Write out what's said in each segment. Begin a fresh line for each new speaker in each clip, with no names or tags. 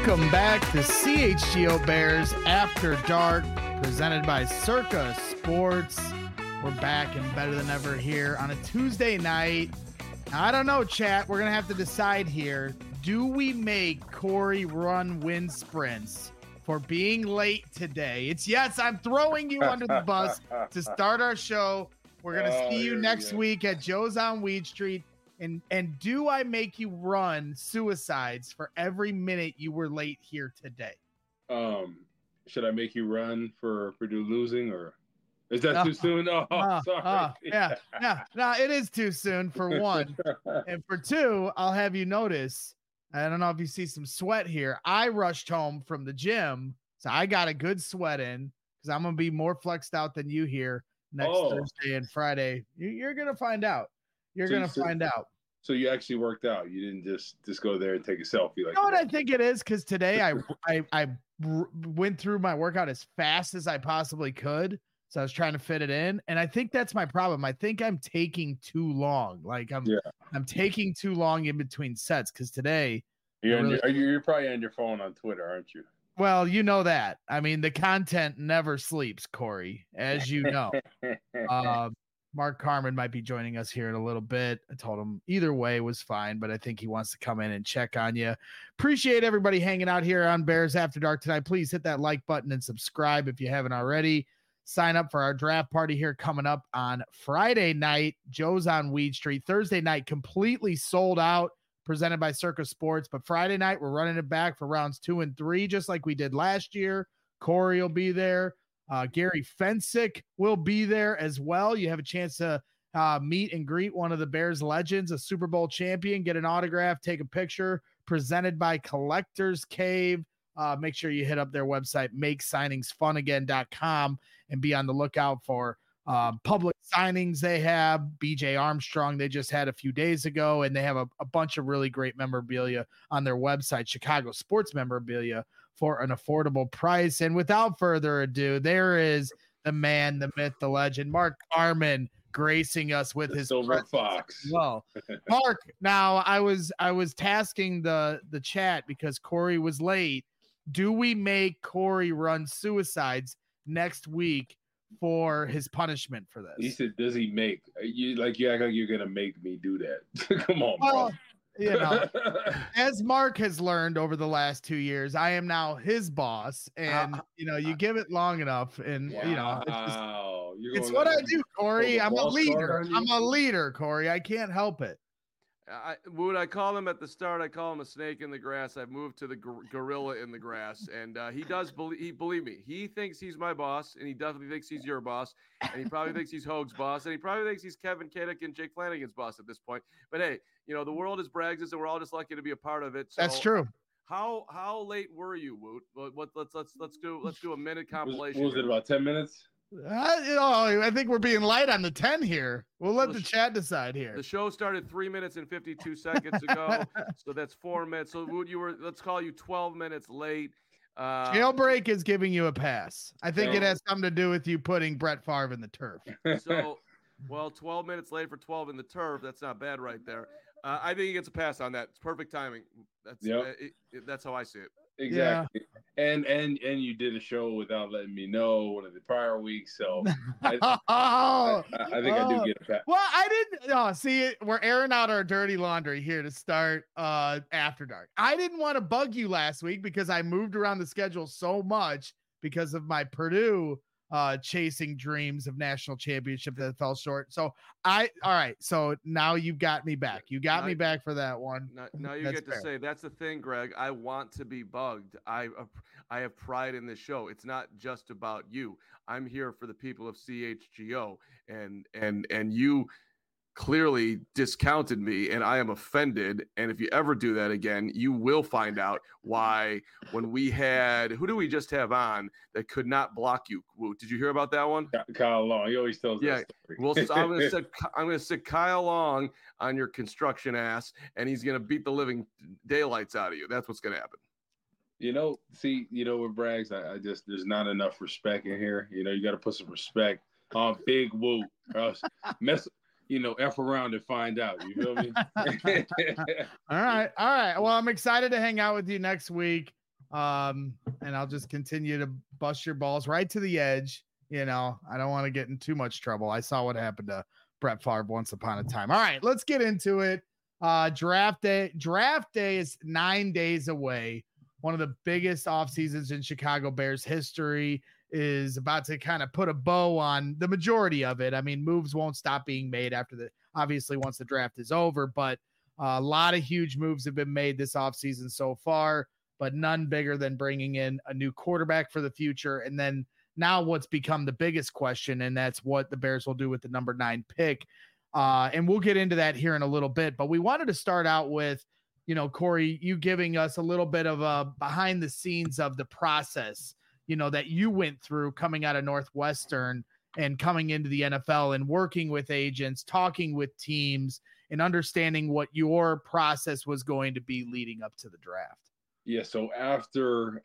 Welcome back to CHGO Bears After Dark, presented by Circa Sports. We're back and better than ever here on a Tuesday night. Now, I don't know, chat. We're going to have to decide here. Do we make Corey run wind sprints for being late today? It's yes, I'm throwing you under the bus to start our show. We're going to see you next week at Joe's on Weed Street. And do I make you run suicides for every minute you were late here today?
Should I make you run for Purdue losing, or is that too soon? Sorry.
No, it is too soon for one. And for two, I'll have you notice, I don't know if you see some sweat here. I rushed home from the gym, so I got a good sweat in because I'm going to be more flexed out than you here next Thursday and Friday. You're going to find out. You're going to find out.
So you actually worked out. You didn't just go there and take a selfie. Like,
you know what I think it is? Because today I went through my workout as fast as I possibly could. So I was trying to fit it in. And I think that's my problem. I think I'm taking too long. Like I'm taking too long in between sets because today.
You're probably on your phone on Twitter, aren't you?
Well, you know that. I mean, the content never sleeps, Corey, as you know. Mark Carmen might be joining us here in a little bit. I told him either way was fine, but I think he wants to come in and check on you. Appreciate everybody hanging out here on Bears After Dark tonight. Please hit that like button and subscribe if you haven't already. Sign up for our draft party here coming up on Friday night. Joe's on Weed Street. Thursday night, completely sold out, presented by Circa Sports. But Friday night, we're running it back for rounds 2 and 3, just like we did last year. Corey will be there. Gary Fensick will be there as well. You have a chance to meet and greet one of the Bears legends, a Super Bowl champion, get an autograph, take a picture, presented by Collectors Cave. Make sure you hit up their website, makesigningsfunagain.com, and be on the lookout for public signings they have. BJ Armstrong, they just had a few days ago, and they have a bunch of really great memorabilia on their website, Chicago Sports Memorabilia, for an affordable price. And without further ado, there is the man, the myth, the legend, Mark Carmen, gracing us with his
Silver Fox.
Well, Mark, now I was tasking the chat because Corey was late. Do we make Corey run suicides next week for his punishment for this?
He said, does he make you act like you're gonna make me do that? Come on, bro.
You know, as Mark has learned over the last 2 years, I am now his boss, and you give it long enough, and it's what I do, Corey. I'm a leader, Corey. I can't help it.
Would I call him at the start? I call him a snake in the grass. I've moved to the gorilla in the grass, and he does believe me. He thinks he's my boss, and he definitely thinks he's your boss, and he probably thinks he's Hoag's boss, and he probably thinks he's Kevin Kadick and Jake Flanagan's boss at this point. But hey, the world is Braggs', and we're all just lucky to be a part of it. So
that's true.
How late were you, Woot? Let's do a minute compilation.
Was it about 10 minutes?
I think we're being light on the 10 here. We'll let the chat decide here.
The show started 3 minutes and 52 seconds ago, so that's 4 minutes. So let's call you 12 minutes late.
Jailbreak is giving you a pass. I think it has something to do with you putting Brett Favre in the turf.
So, 12 minutes late for 12 in the turf. That's not bad right there. I think he gets a pass on that. It's perfect timing. That's how I see it.
Exactly. Yeah. And you did a show without letting me know one of the prior weeks, so I think I do get a pat.
Well, I didn't see, we're airing out our dirty laundry here to start After Dark. I didn't want to bug you last week because I moved around the schedule so much because of my Purdue chasing dreams of national championship that fell short. So all right. So now you've got me back. You got me back for that one.
Now you get to say, that's the thing, Greg. I want to be bugged. I have pride in this show. It's not just about you. I'm here for the people of CHGO, and you clearly discounted me, and I am offended. And if you ever do that again, you will find out why. When we had, who do we just have on that could not block you? Did you hear about that one?
Kyle Long. He always tells that story.
Well, so I'm going to stick Kyle Long on your construction ass, and he's going to beat the living daylights out of you. That's what's going to happen.
With Braggs, I just, there's not enough respect in here. You got to put some respect on Big Woo. F around and find out. You feel me?
All right. Well, I'm excited to hang out with you next week. And I'll just continue to bust your balls right to the edge. I don't want to get in too much trouble. I saw what happened to Brett Favre once upon a time. All right, let's get into it. Draft day is 9 days away. One of the biggest off seasons in Chicago Bears history is about to kind of put a bow on the majority of it. I mean, moves won't stop being made obviously once the draft is over, but a lot of huge moves have been made this offseason so far, but none bigger than bringing in a new quarterback for the future. And then now what's become the biggest question, and that's what the Bears will do with the number 9 pick. And we'll get into that here in a little bit, but we wanted to start out with, Corey, you giving us a little bit of a behind the scenes of the process, that you went through coming out of Northwestern and coming into the NFL and working with agents, talking with teams, and understanding what your process was going to be leading up to the draft.
Yeah. So after,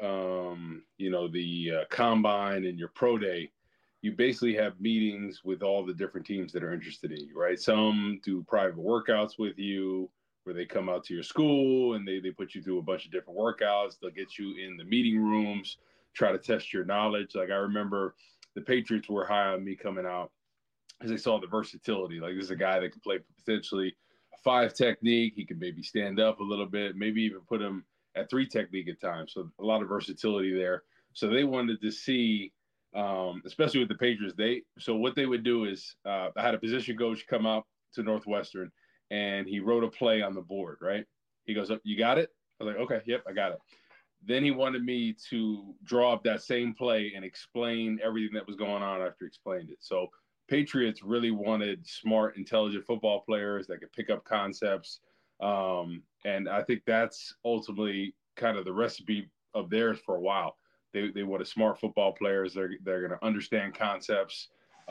the combine and your pro day, you basically have meetings with all the different teams that are interested in you, right? Some do private workouts with you where they come out to your school and they put you through a bunch of different workouts. They'll get you in the meeting rooms, try to test your knowledge. Like I remember the Patriots were high on me coming out because they saw the versatility. Like this is a guy that could play potentially a 5 technique. He could maybe stand up a little bit, maybe even put him at 3 technique at times. So a lot of versatility there. So they wanted to see, especially with the Patriots, so what they would do is I had a position coach come out to Northwestern and he wrote a play on the board, right? He goes, you got it? I was like, okay, yep, I got it. Then he wanted me to draw up that same play and explain everything that was going on after he explained it. So Patriots really wanted smart, intelligent football players that could pick up concepts. And I think that's ultimately kind of the recipe of theirs for a while. They wanted smart football players. They're going to understand concepts.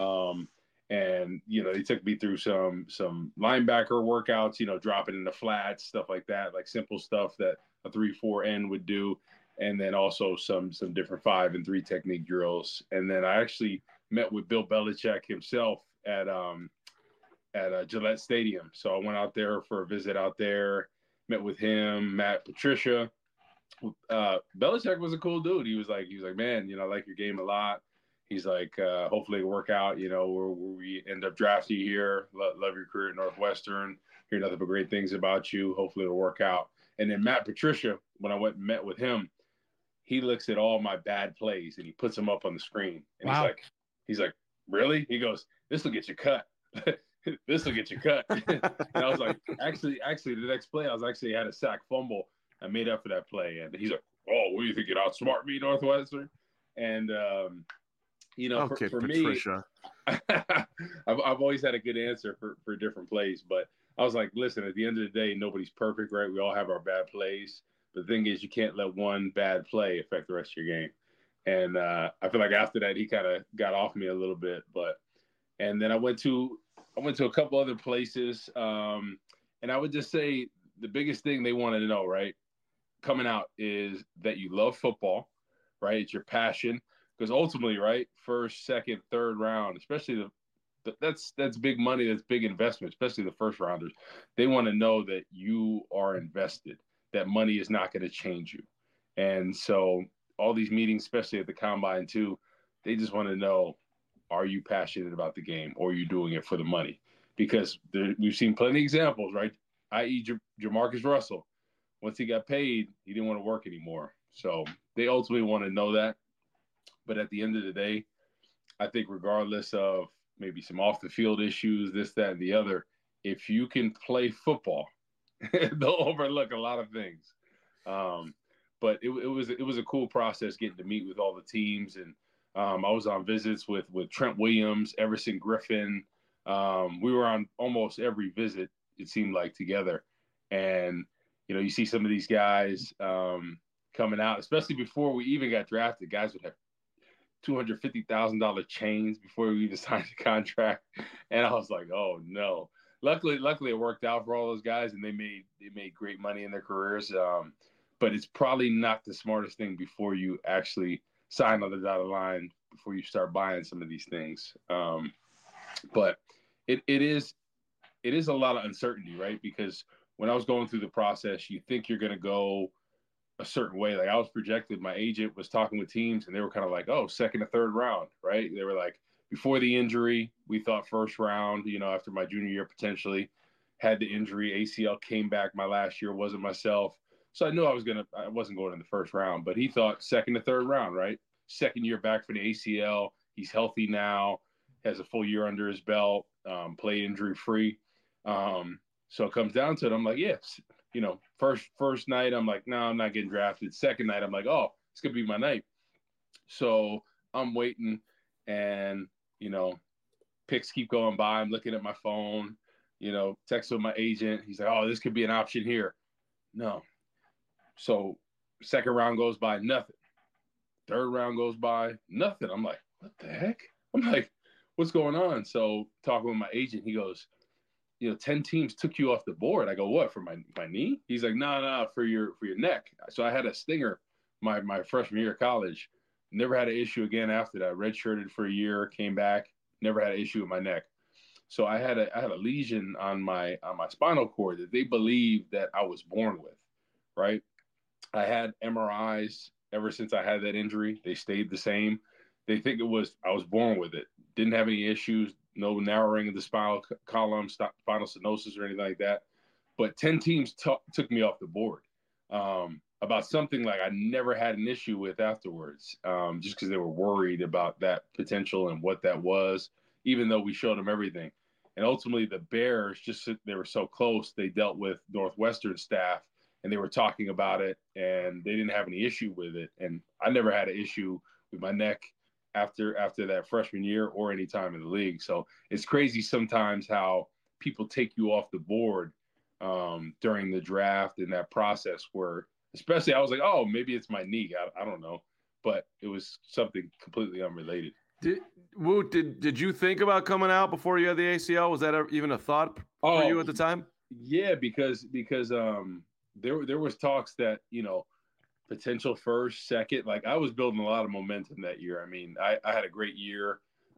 And, they took me through some linebacker workouts, dropping in the flats, stuff like that, like simple stuff that a 3-4 end would do. And then also some different 5 and 3 technique drills. And then I actually met with Bill Belichick himself at Gillette Stadium. So I went out there for a visit out there, met with him, Matt Patricia. Belichick was a cool dude. He was like, man, I like your game a lot. He's like, hopefully it'll work out, where we end up drafting you here. Love your career at Northwestern. Hear nothing but great things about you. Hopefully it'll work out. And then Matt Patricia, when I went and met with him, he looks at all my bad plays and he puts them up on the screen. And wow. He's like, really? He goes, this will get you cut. This will get you cut. And I was like, actually, the next play, I had a sack fumble. I made up for that play. And he's like, oh, what do you think? You'd outsmart me, Northwestern? And,
okay,
for
Patricia.
me, I've always had a good answer for different plays. But I was like, listen, at the end of the day, nobody's perfect, right? We all have our bad plays. But the thing is, you can't let one bad play affect the rest of your game. And I feel like after that, he kind of got off me a little bit. And then I went to a couple other places. And I would just say the biggest thing they wanted to know, right, coming out is that you love football, right? It's your passion. Because ultimately, right, first, second, third round, especially that's big money, that's big investment, especially the first rounders. They want to know that you are invested, that money is not going to change you. And so all these meetings, especially at the combine too, they just want to know, are you passionate about the game or are you doing it for the money? Because we've seen plenty of examples, right? i.e. Jamarcus Russell. Once he got paid, he didn't want to work anymore. So they ultimately want to know that. But at the end of the day, I think regardless of maybe some off the field issues, this, that, and the other, if you can play football, they'll overlook a lot of things. But it was a cool process getting to meet with all the teams. And I was on visits with Trent Williams, Everson Griffin. We were on almost every visit, it seemed like, together. And, you see some of these guys coming out, especially before we even got drafted, guys would have $250,000 chains before we even signed the contract. And I was like, oh no. Luckily it worked out for all those guys and they made great money in their careers. But it's probably not the smartest thing before you actually sign on the dotted line, before you start buying some of these things. But it is a lot of uncertainty, right? Because when I was going through the process, you think you're going to go a certain way. Like I was projected, my agent was talking with teams and they were kind of like, oh, second to third round, right? They were like, before the injury, we thought first round, after my junior year, potentially had the injury. ACL came back my last year, wasn't myself. So I knew I wasn't going in the first round, but he thought second to third round, right? Second year back for the ACL. He's healthy now, has a full year under his belt, play injury free. So it comes down to it. I'm like, yes, first night, I'm like, no, I'm not getting drafted. Second night, I'm like, oh, it's going to be my night. So I'm waiting and, picks keep going by. I'm looking at my phone, text with my agent. He's like, oh, this could be an option here. No. So second round goes by, nothing. Third round goes by, nothing. I'm like, what the heck? I'm like, what's going on? So talking with my agent, he goes, 10 teams took you off the board. I go, what, for my knee? He's like, no, for your neck. So I had a stinger my freshman year of college. Never had an issue again after that. Redshirted for a year, came back, never had an issue with my neck. So I had a lesion on my spinal cord that they believed that I was born with, right? I had MRIs ever since I had that injury. They stayed the same. They think I was born with it. Didn't have any issues, no narrowing of the spinal column, spinal stenosis or anything like that. But 10 teams took me off the board about something like I never had an issue with afterwards, just because they were worried about that potential and what that was, even though we showed them everything. And ultimately, the Bears, they were so close, they dealt with Northwestern staff, and they were talking about it, and they didn't have any issue with it. And I never had an issue with my neck after that freshman year or any time in the league. So it's crazy sometimes how people take you off the board during the draft and that process where, especially I was like, oh, maybe it's my knee. I don't know. But it was something completely unrelated.
Did you think about coming out before you had the ACL? Was that even a thought for you at the time?
Yeah, because there was talks that, potential first, second. Like I was building a lot of momentum that year. I mean, I had a great year.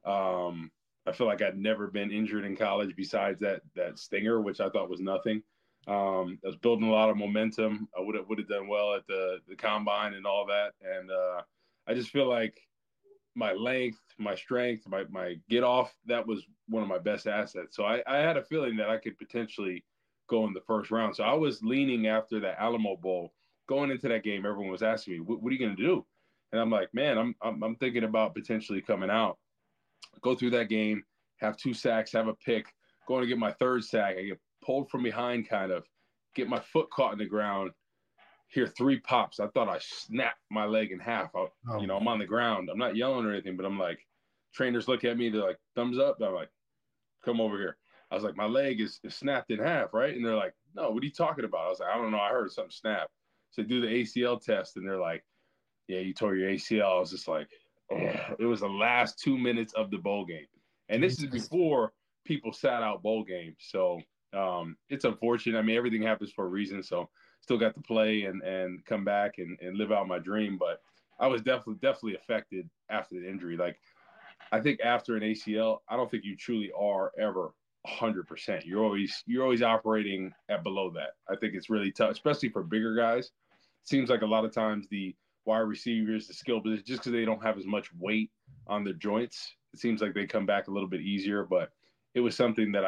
I feel like I'd never been injured in college besides that stinger, which I thought was nothing. I was building a lot of momentum. I would have done well at the combine and all that. And I just feel like my length, my strength, my get off, that was one of my best assets. So I had a feeling that I could potentially go in the first round. So I was leaning after that Alamo Bowl. Going into that game, everyone was asking me, what are you going to do? And I'm like, man, I'm thinking about potentially coming out, go through that game, have 2 sacks, have a pick, going to get my third sack. I get pulled from behind, kind of get my foot caught in the ground, hear 3 pops. I thought I snapped my leg in half. I'm on the ground. I'm not yelling or anything, but I'm like, trainers look at me. They're like, thumbs up. I'm like, come over here. I was like, my leg is snapped in half, right? And they're like, no, what are you talking about? I was like, I don't know. I heard something snap. So do the ACL test, and they're like, yeah, you tore your ACL. I was just like, oh. It was the last 2 minutes of the bowl game. And this is before people sat out bowl games. So it's unfortunate. I mean, everything happens for a reason. So still got to play and come back and live out my dream. But I was definitely affected after the injury. Like, I think after an ACL, I don't think you truly are ever 100%. You're always operating at below that. I think it's really tough, especially for bigger guys. It seems like a lot of times the wide receivers, the skill position, just because they don't have as much weight on their joints, it seems like they come back a little bit easier. But it was something that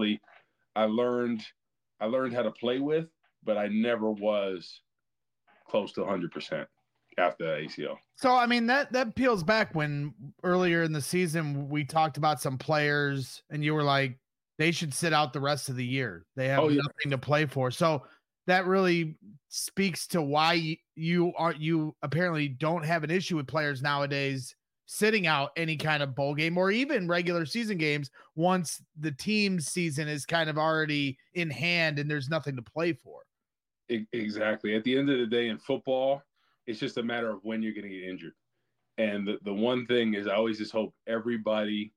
I learned how to play with, but I never was close to 100% after the ACL.
So, I mean, that peels back when earlier in the season we talked about some players and you were like, they should sit out the rest of the year. They have nothing to play for. So that really speaks to why you apparently don't have an issue with players nowadays sitting out any kind of bowl game or even regular season games once the team's season is kind of already in hand and there's nothing to play for.
Exactly. At the end of the day in football, it's just a matter of when you're going to get injured. And the one thing is I always just hope everybody,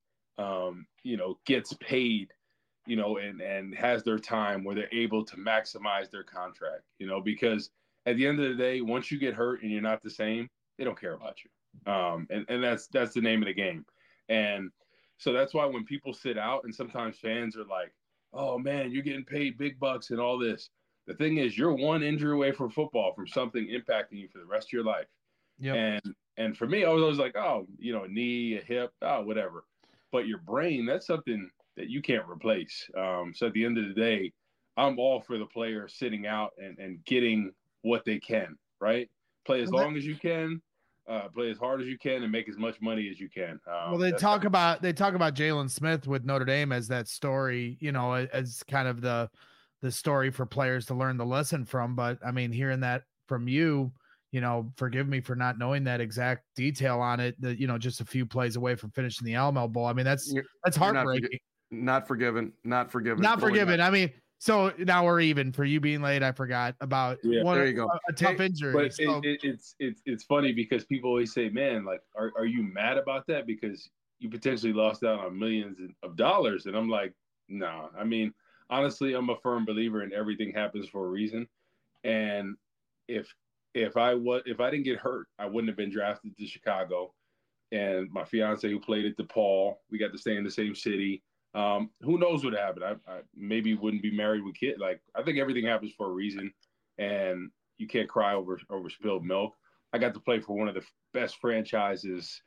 gets paid, and has their time where they're able to maximize their contract, because at the end of the day, once you get hurt and you're not the same, they don't care about you. And that's the name of the game. And so that's why when people sit out and sometimes fans are like, oh man, you're getting paid big bucks and all this. The thing is, you're one injury away from football from something impacting you for the rest of your life.
Yep.
And for me, I was always like, oh, a knee, a hip, whatever. But your brain, that's something that you can't replace. So at the end of the day, I'm all for the player sitting out and getting what they can, right? Play as long as you can, play as hard as you can, and make as much money as you can.
Well, they talk about Jalen Smith with Notre Dame as that story, as kind of the story for players to learn the lesson from. But I mean, hearing that from you, forgive me for not knowing that exact detail on it. That just a few plays away from finishing the Alamo Bowl. I mean, that's heartbreaking.
Not forgiven.
I mean, so now we're even for you being late. I forgot about
there you go.
A tough injury.
But
so.
it's funny because people always say, man, like, are you mad about that? Because you potentially lost out on millions of dollars. And I'm like, no. I mean, honestly, I'm a firm believer in everything happens for a reason. And if I didn't get hurt, I wouldn't have been drafted to Chicago. And my fiance, who played at DePaul, we got to stay in the same city. Who knows what happened? I maybe wouldn't be married with kids. Like, I think everything happens for a reason, and you can't cry over spilled milk. I got to play for one of the best franchises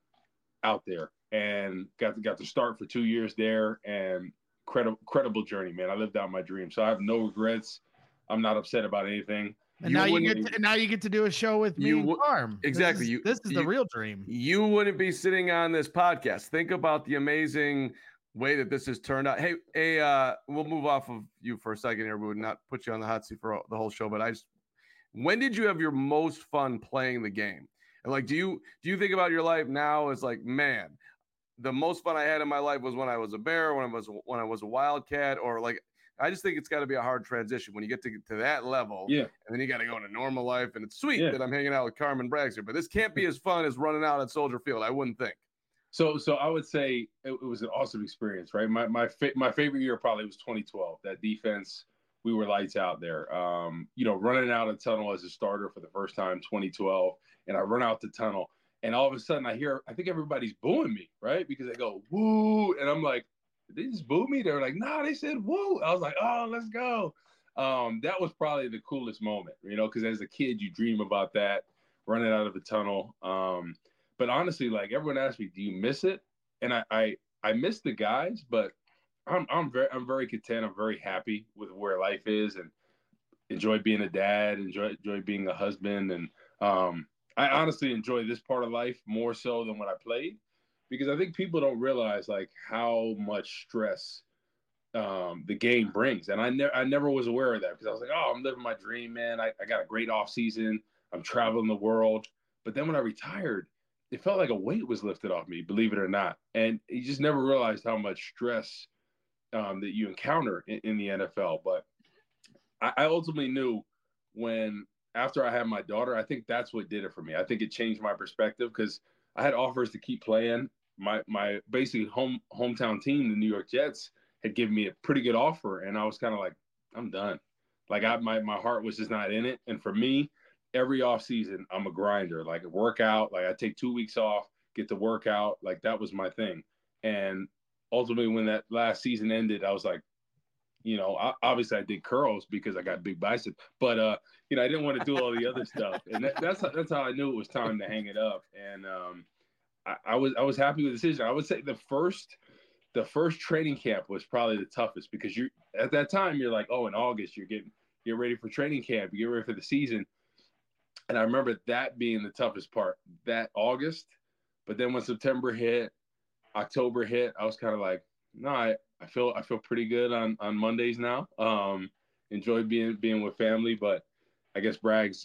out there, and got to start for 2 years there, and credible journey, man. I lived out my dream, so I have no regrets. I'm not upset about anything.
And now you get to do a show with me and Carm.
Exactly.
This is the real dream.
You wouldn't be sitting on this podcast. Think about the amazing way that this has turned out. Hey, we'll move off of you for a second here. We would not put you on the hot seat for the whole show, but when did you have your most fun playing the game? And like, do you think about your life now as like, man, the most fun I had in my life was when I was a Bear, when I was a Wildcat, or like, I just think it's got to be a hard transition when you get to that level.
Yeah.
And then you got to go into normal life, and it's sweet that I'm hanging out with Carmen Braggs here, but this can't be as fun as running out at Soldier Field. I wouldn't think.
So I would say it was an awesome experience, right? My favorite year probably was 2012. That defense, we were lights out there. Running out of tunnel as a starter for the first time, 2012, and I run out the tunnel, and all of a sudden I think everybody's booing me, right? Because they go woo, and I'm like, did they just boo me? They were like, no, they said woo. I was like, oh, let's go. That was probably the coolest moment, because as a kid you dream about that, running out of the tunnel. But honestly, like, everyone asks me, do you miss it? And I miss the guys, but I'm very content. I'm very happy with where life is, and enjoy being a dad, enjoy being a husband. And I honestly enjoy this part of life more so than when I played, because I think people don't realize like how much stress the game brings. And I never was aware of that, because I was like, oh, I'm living my dream, man. I got a great off season. I'm traveling the world. But then when I retired, it felt like a weight was lifted off me, believe it or not. And you just never realized how much stress that you encounter in the NFL. But I ultimately knew after I had my daughter, I think that's what did it for me. I think it changed my perspective, because I had offers to keep playing. My basically hometown team, the New York Jets, had given me a pretty good offer, and I was kind of like, I'm done. Like, my heart was just not in it. And for me, every off season, I'm a grinder. Like, a workout, like I take 2 weeks off, get to work out. Like, that was my thing. And ultimately, when that last season ended, I was like, obviously I did curls because I got big biceps, but I didn't want to do all the other stuff. And that's how I knew it was time to hang it up. And I was happy with the decision. I would say the first training camp was probably the toughest, because you at that time you're like, oh, in August you're ready for training camp, you get ready for the season. And I remember that being the toughest part, that August. But then when September hit, October hit, I was kind of like, no, I feel pretty good on Mondays now. Enjoy being with family, but I guess Braggs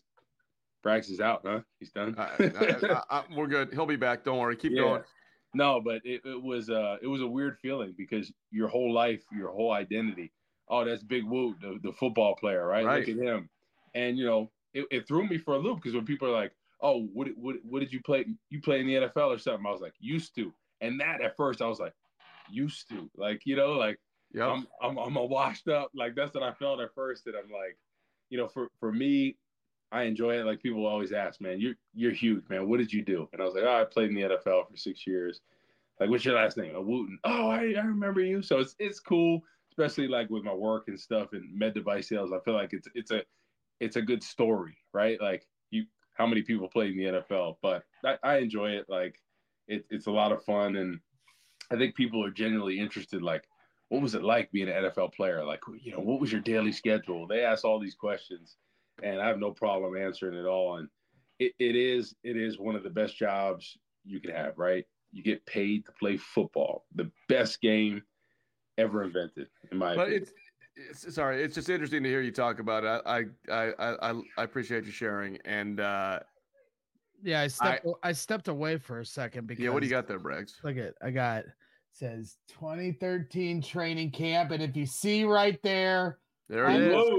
is out, huh? He's done.
We're good. He'll be back. Don't worry. Keep going.
No, but it was a weird feeling, because your whole life, your whole identity. Oh, that's Big Woo, the football player, right? Look at him. And it threw me for a loop, because when people are like, oh, what did you play? You play in the NFL or something? I was like, used to. And that at first I was like, used to, like, like, yep. I'm a washed up, like, that's what I felt at first. And I'm like, for me, I enjoy it. Like, people always ask, man, you're huge, man. What did you do? And I was like, oh, I played in the NFL for 6 years. Like, what's your last name? Wooten. Oh, I remember you. So it's cool. especially like with my work and stuff and med device sales. I feel like it's a good story, right? Like how many people play in the NFL, but I enjoy it. Like it's a lot of fun, and I think people are genuinely interested. Like, what was it like being an NFL player? Like, what was your daily schedule? They ask all these questions, and I have no problem answering it all. And it is one of the best jobs you can have, right? You get paid to play football, the best game ever invented, in my opinion.
Sorry, it's just interesting to hear you talk about it. I appreciate you sharing. And
yeah, I stepped away for a second because
what do you got there, Braggs?
Look at says 2013 training camp, and if you see right there
it is.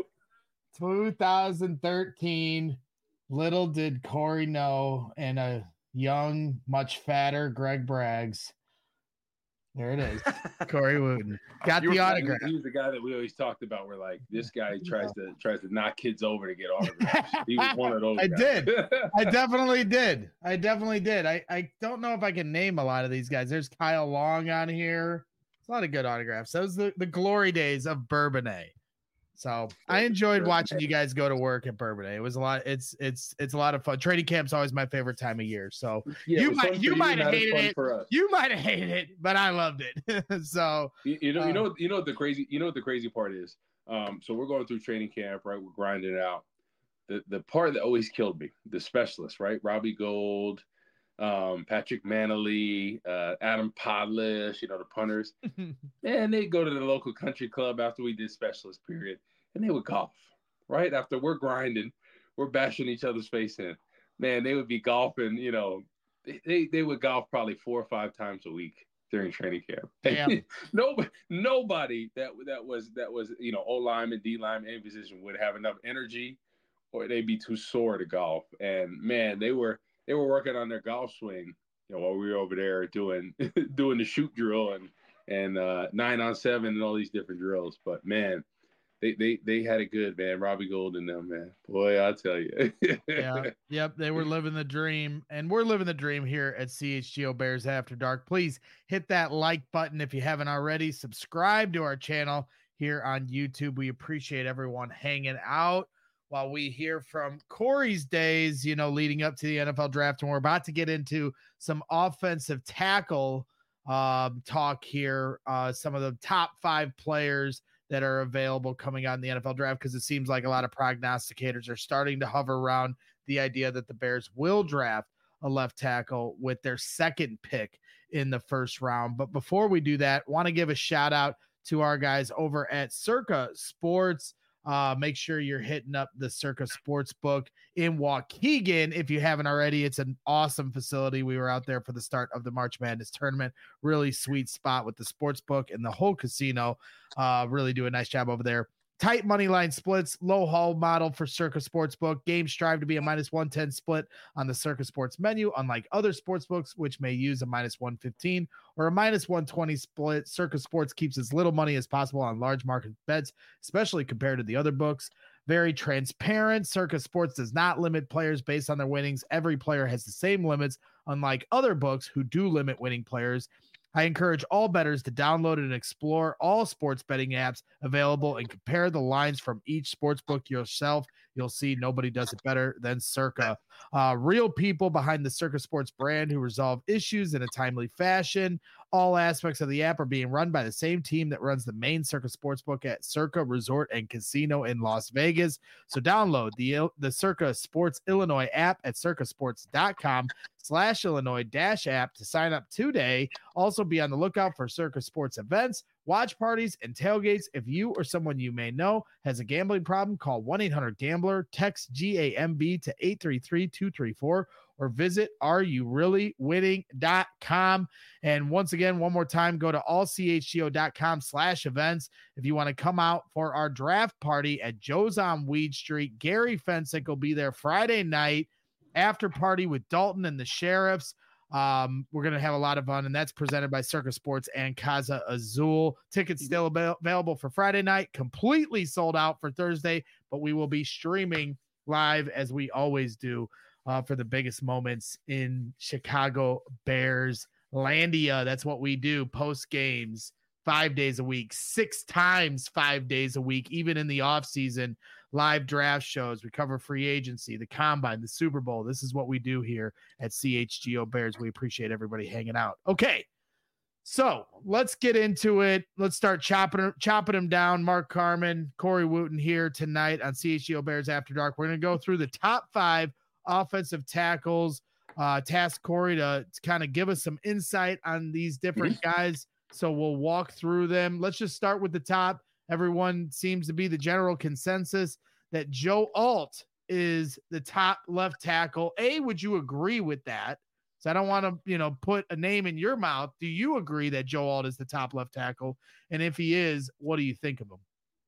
2013. Little did Corey know, and a young, much fatter Greg Braggs. There it is. Corey Wooten got the autograph.
He was the guy that we always talked about. We're like, this guy tries to knock kids over to get autographs. He was one of those guys.
I definitely did. I don't know if I can name a lot of these guys. There's Kyle Long on here. It's a lot of good autographs. Those the glory days of Bourbonnais. So I enjoyed watching you guys go to work at Bourbonnais. It was a lot. It's a lot of fun. Training camp's always my favorite time of year. So you might have hated it. You might have hated it, but I loved it. So
you know what the crazy part is. So we're going through training camp, right? We're grinding it out. The part that always killed me, the specialists, right? Robbie Gould, Patrick Manley, Adam Podlish, the punters. And they go to the local country club after we did specialist period, and they would golf, right? After we're grinding, we're bashing each other's face in. Man, they would be golfing, they would golf probably 4 or 5 times a week during training camp.
Yeah.
Nobody that was O lineman, D lineman, any position would have enough energy, or they'd be too sore to golf. And man, they were working on their golf swing, while we were over there doing the shoot drill and 9-on-7 and all these different drills. But man, they had it good, man. Robbie Gould and them, man. Boy, I'll tell you.
Yeah. Yep. They were living the dream, and we're living the dream here at CHGO Bears After Dark. Please hit that like button if you haven't already. Subscribe to our channel here on YouTube. We appreciate everyone hanging out while we hear from Corey's days, leading up to the NFL draft. And we're about to get into some offensive tackle talk here. Some of the top 5 players that are available coming out in the NFL draft, because it seems like a lot of prognosticators are starting to hover around the idea that the Bears will draft a left tackle with their second pick in the first round. But before we do that, want to give a shout out to our guys over at Circa Sports. Make sure you're hitting up the Circa Sportsbook in Waukegan if you haven't already. It's an awesome facility. We were out there for the start of the March Madness tournament. Really sweet spot with the sportsbook and the whole casino. Really do a nice job over there. Tight money line splits, low haul model for Circa Sportsbook. Games strive to be a -110 split on the Circa Sports menu, unlike other sportsbooks, which may use a -115 or a -120 split. Circa Sports keeps as little money as possible on large market bets, especially compared to the other books. Very transparent. Circa Sports does not limit players based on their winnings. Every player has the same limits, unlike other books who do limit winning players. I encourage all bettors to download and explore all sports betting apps available and compare the lines from each sportsbook yourself. You'll see nobody does it better than Circa. Real people behind the Circa Sports brand who resolve issues in a timely fashion. All aspects of the app are being run by the same team that runs the main Circa Sportsbook at Circa Resort and Casino in Las Vegas. So download the Circa Sports Illinois app at circasports.com/Illinois-app to sign up today. Also be on the lookout for Circa Sports events, watch parties, and tailgates. If you or someone you may know has a gambling problem, call 1-800-GAMBLER, text GAMB to 833-234, or visit areyoureallywinning.com. And once again, one more time, go to allchgo.com/events if you want to come out for our draft party at Joe's on Weed Street. Gary Fensick will be there Friday night, after party with Dalton and the Sheriffs. We're going to have a lot of fun, and that's presented by Circa Sports and Casa Azul. Tickets still available for Friday night, completely sold out for Thursday, but we will be streaming live as we always do for the biggest moments in Chicago Bears Landia. That's what we do post games 5 days a week, 6 times 5 days a week, even in the off season, live draft shows. We cover free agency, the combine, the Super Bowl. This is what we do here at CHGO Bears. We appreciate everybody hanging out. Okay. So let's get into it. Let's start chopping them down. Mark Carman, Corey Wootton here tonight on CHGO Bears After Dark. We're going to go through the top 5 offensive tackles. Task Corey to kind of give us some insight on these different guys. So we'll walk through them. Let's just start with the top. Everyone seems to be the general consensus that Joe Alt is the top left tackle. Would you agree with that? So I don't want to, put a name in your mouth. Do you agree that Joe Alt is the top left tackle? And if he is, what do you think of him?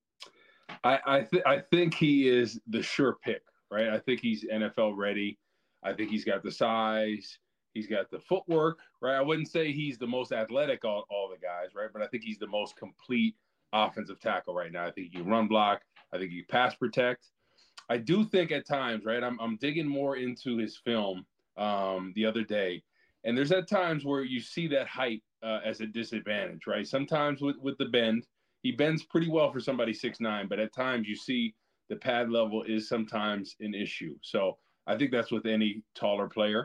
I think he is the sure pick, right? I think he's NFL ready. I think he's got the size. He's got the footwork, right? I wouldn't say he's the most athletic all the guys, right? But I think he's the most complete offensive tackle right now. I think he can run block. I think he can pass protect. I do think at times, right, I'm digging more into his film the other day, and there's at times where you see that height as a disadvantage, right? Sometimes with the bend, he bends pretty well for somebody 6'9", but at times you see the pad level is sometimes an issue. So I think that's with any taller player.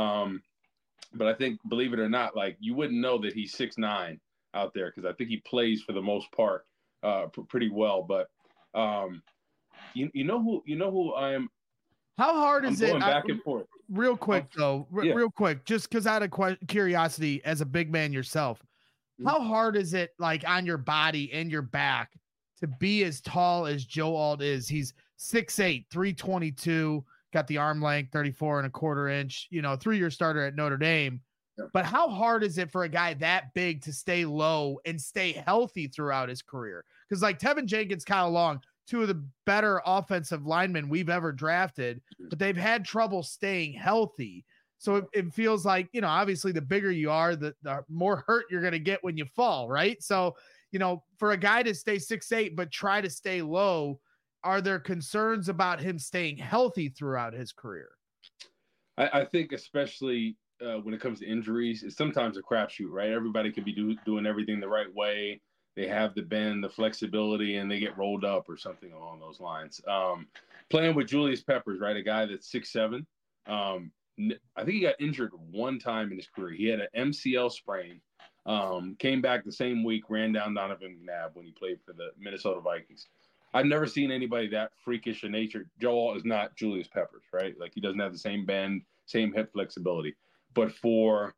But I think, believe it or not, like you wouldn't know that he's 6'9" out there because I think he plays for the most part pretty well. But you know who I am.
How hard is it?
Going back and forth.
Real quick though, real quick, just because out of curiosity, as a big man yourself, how hard is it, like on your body and your back, to be as tall as Joe Alt is? He's 6'8", 322. Got the arm length, 34 and a quarter inch, 3-year starter at Notre Dame. Yeah. But how hard is it for a guy that big to stay low and stay healthy throughout his career? Because like Tevin Jenkins, Kyle Long, 2 of the better offensive linemen we've ever drafted, but they've had trouble staying healthy. So it feels like, obviously the bigger you are, the more hurt you're going to get when you fall, right? So, for a guy to stay 6'8", but try to stay low, are there concerns about him staying healthy throughout his career?
I think especially when it comes to injuries, it's sometimes a crapshoot, right? Everybody could be doing everything the right way. They have the bend, the flexibility, and they get rolled up or something along those lines. Playing with Julius Peppers, right, a guy that's 6'7". I think he got injured one time in his career. He had an MCL sprain, came back the same week, ran down Donovan McNabb when he played for the Minnesota Vikings. I've never seen anybody that freakish in nature. Joel is not Julius Peppers, right? Like he doesn't have the same bend, same hip flexibility. But for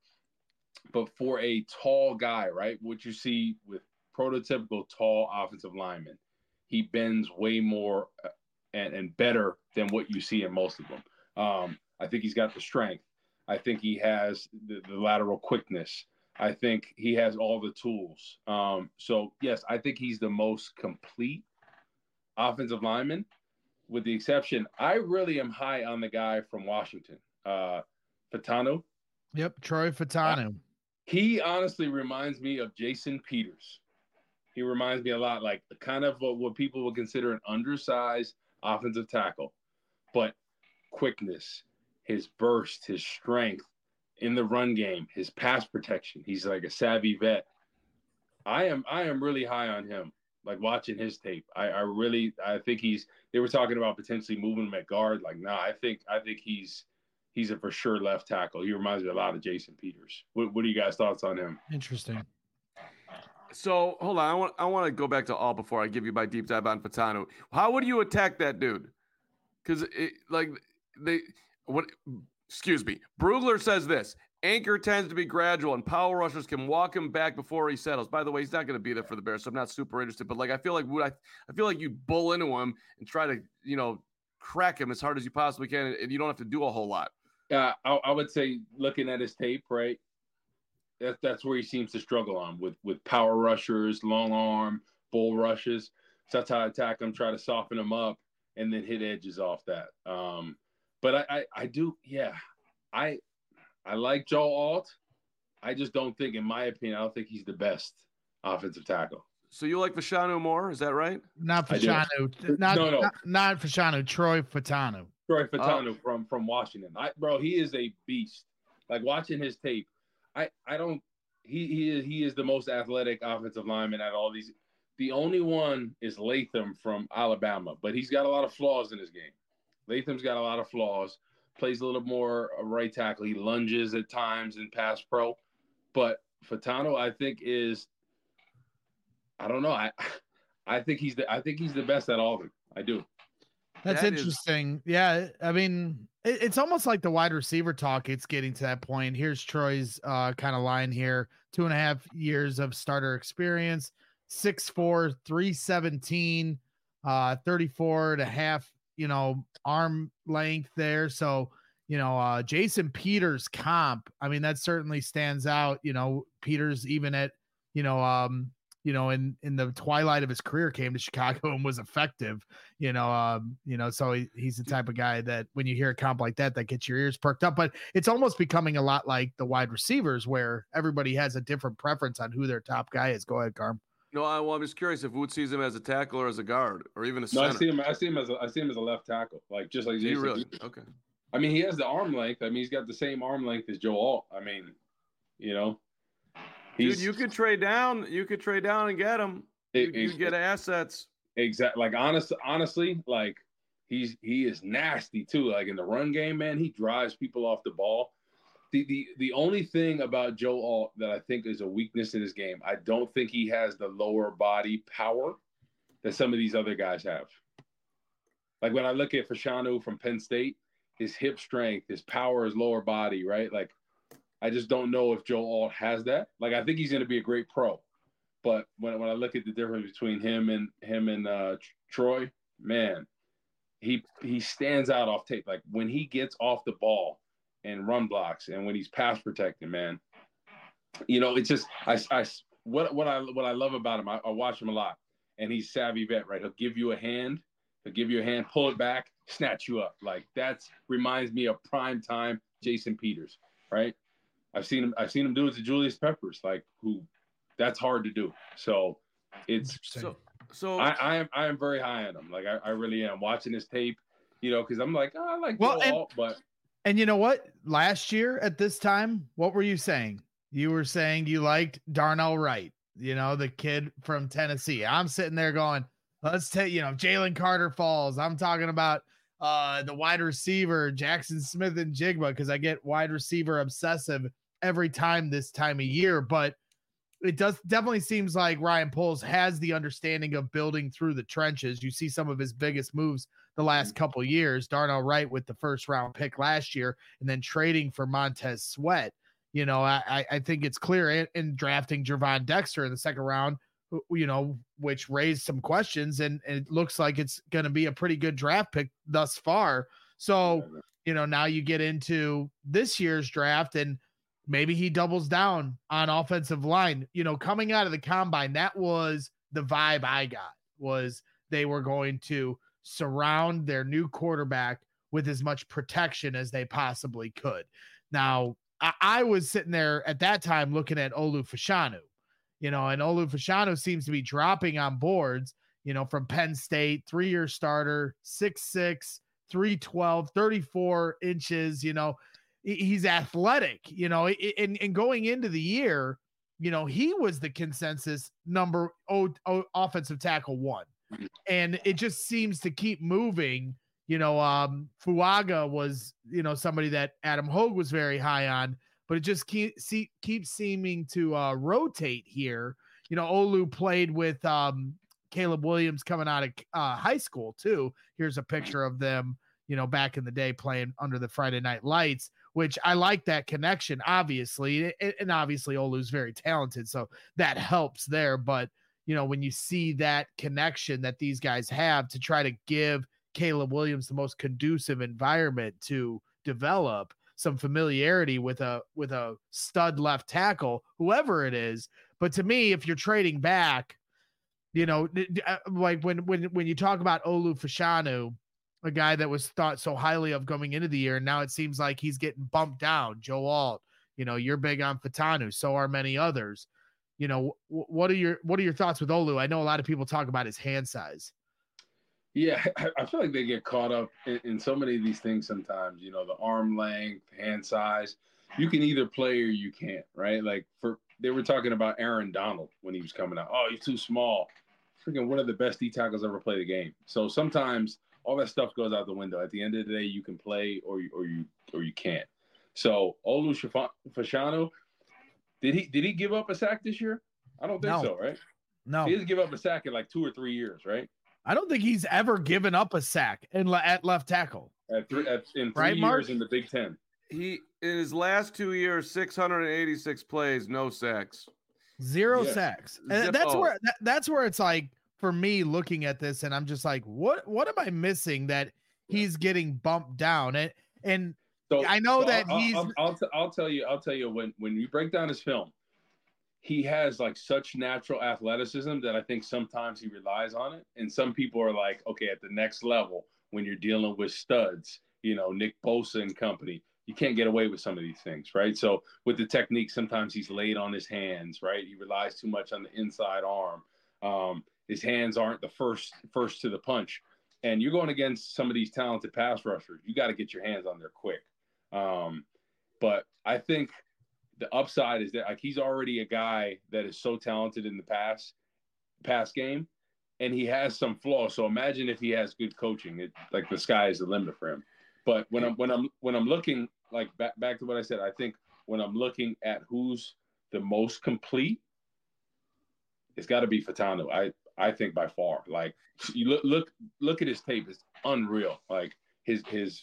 a tall guy, right, what you see with prototypical tall offensive linemen, he bends way more and better than what you see in most of them. I think he's got the strength. I think he has the lateral quickness. I think he has all the tools. So, yes, I think he's the most complete offensive lineman, with the exception, I really am high on the guy from Washington, Fautanu.
Yep, Troy Fautanu.
He honestly reminds me of Jason Peters. He reminds me a lot like kind of what people would consider an undersized offensive tackle, but quickness, his burst, his strength in the run game, his pass protection. He's like a savvy vet. I am really high on him. Like watching his tape, I think they were talking about potentially moving him at guard. Like, nah, I think he's a for sure left tackle. He reminds me a lot of Jason Peters. What are you guys' thoughts on him?
Interesting.
So hold on, I want to go back to all before I give you my deep dive on Fautanu. How would you attack that dude? Because Brugler says this. Anchor tends to be gradual, and power rushers can walk him back before he settles. By the way, he's not going to be there for the Bears, so I'm not super interested. But like, I feel like you bull into him and try to, crack him as hard as you possibly can, and you don't have to do a whole lot.
I would say, looking at his tape, right, that's where he seems to struggle on with power rushers, long arm, bull rushes. So that's how I attack him, try to soften him up, and then hit edges off that. But I do, yeah, I like Joe Alt. I just don't think, in my opinion, I don't think he's the best offensive tackle.
So you like Fautanu more? Is that right?
Not Fautanu. Not Fautanu. Troy Fautanu.
Troy Fautanu from Washington. Bro, he is a beast. Like watching his tape, I don't. he is the most athletic offensive lineman out of all these. The only one is Latham from Alabama, but he's got a lot of flaws in his game. Latham's got a lot of flaws. Plays a little more right tackle. He lunges at times in pass pro, but Fautanu, I think, is, I don't know. I think he's the best at all of them. I do.
That's interesting. Yeah, I mean, it's almost like the wide receiver talk. It's getting to that point. Here's Troy's kind of line here: 2.5 years of starter experience, 6'4", 317, 34.5, arm length there. So, Jason Peters comp, I mean, that certainly stands out. Peters, even at, in the twilight of his career, came to Chicago and was effective, so he's the type of guy that when you hear a comp like that gets your ears perked up. But it's almost becoming a lot like the wide receivers where everybody has a different preference on who their top guy is. Go ahead, Carm.
No, I'm just curious if Wood sees him as a tackle or as a guard or even a center.
No, I see him as a left tackle, like just like Jason.
Really? Okay.
I mean, he has the arm length. I mean, he's got the same arm length as Joe Alt. I mean,
dude, you could trade down. You could trade down and get him. You get assets.
Exactly. Like honestly, like he is nasty too. Like in the run game, man, he drives people off the ball. The only thing about Joe Alt that I think is a weakness in his game, I don't think he has the lower body power that some of these other guys have. Like when I look at Fashanu from Penn State, his hip strength, his power, his lower body, right? Like I just don't know if Joe Alt has that. Like I think he's going to be a great pro, but when I look at the difference between him and Troy, man, he stands out off tape. Like when he gets off the ball and run blocks, and when he's pass protecting, man, it's just what I love about him. I watch him a lot, and he's savvy vet, right? He'll give you a hand, pull it back, snatch you up. Like that's reminds me of prime time Jason Peters, right? I've seen him do it to Julius Peppers, like who that's hard to do. So it's so I am very high on him. Like I really am watching his tape, because I'm like, I like Joe Alt, but.
And you know what? Last year at this time, what were you saying? You were saying you liked Darnell Wright, the kid from Tennessee. I'm sitting there going, let's take, Jalen Carter falls. I'm talking about the wide receiver, Jackson Smith and Jigba, because I get wide receiver obsessive every time this time of year. But it definitely seems like Ryan Poles has the understanding of building through the trenches. You see some of his biggest moves the last couple of years, Darnell Wright with the first round pick last year, and then trading for Montez Sweat. I think it's clear in drafting Gervon Dexter in the second round, which raised some questions, and it looks like it's going to be a pretty good draft pick thus far. So, now you get into this year's draft, and maybe he doubles down on offensive line. Coming out of the combine, that was the vibe I got, was they were going to surround their new quarterback with as much protection as they possibly could. Now, I was sitting there at that time looking at Olu Fashanu, and Olu Fashanu seems to be dropping on boards, from Penn State, 3-year starter, 6'6", 312, 34 inches, he's athletic, and going into the year, he was the consensus number offensive tackle 1. And it just seems to keep moving. Fuaga was, somebody that Adam Hogue was very high on, but it just keeps seeming to rotate here. Olu played with Caleb Williams coming out of high school too. Here's a picture of them, back in the day playing under the Friday Night Lights, which I like that connection, obviously. And obviously Olu's very talented, so that helps there. But when you see that connection that these guys have to try to give Caleb Williams the most conducive environment to develop some familiarity with a stud left tackle, whoever it is. But to me, if you're trading back, like when you talk about Olu Fashanu, a guy that was thought so highly of going into the year, and now it seems like he's getting bumped down. Joe Alt, you're big on Fautanu, so are many others. What are your thoughts with Olu? I know a lot of people talk about his hand size.
Yeah, I feel like they get caught up in so many of these things sometimes. The arm length, hand size. You can either play or you can't, right? Like they were talking about Aaron Donald when he was coming out. Oh, he's too small. Freaking one of the best D tackles ever played the game. So sometimes all that stuff goes out the window. At the end of the day, you can play or you can't. So Olu Fashanu, did he give up a sack this year? I don't think so, right?
No.
He doesn't give up a sack in like 2 or 3 years, right?
I don't think he's ever given up a sack at left tackle.
In 3 years Mark? In the Big Ten.
He in his last 2 years, 686 plays, no sacks.
0 sacks. And that's where it's like, for me looking at this, and I'm just like, what am I missing that he's getting bumped down? And so I know that
I'll tell you when you break down his film, he has like such natural athleticism that I think sometimes he relies on it. And some people are like, okay, at the next level, when you're dealing with studs, Nick Bosa and company, you can't get away with some of these things, right? So with the technique, sometimes he's laid on his hands, right? He relies too much on the inside arm. His hands aren't the first to the punch. And you're going against some of these talented pass rushers. You got to get your hands on there quick. But I think the upside is that like he's already a guy that is so talented in the pass game, and he has some flaws. So imagine if he has good coaching, like the sky is the limit for him. But when I'm looking like back to what I said, I think when I'm looking at who's the most complete, it's got to be Fashanu. I think by far. Like you look at his tape, it's unreal. Like he's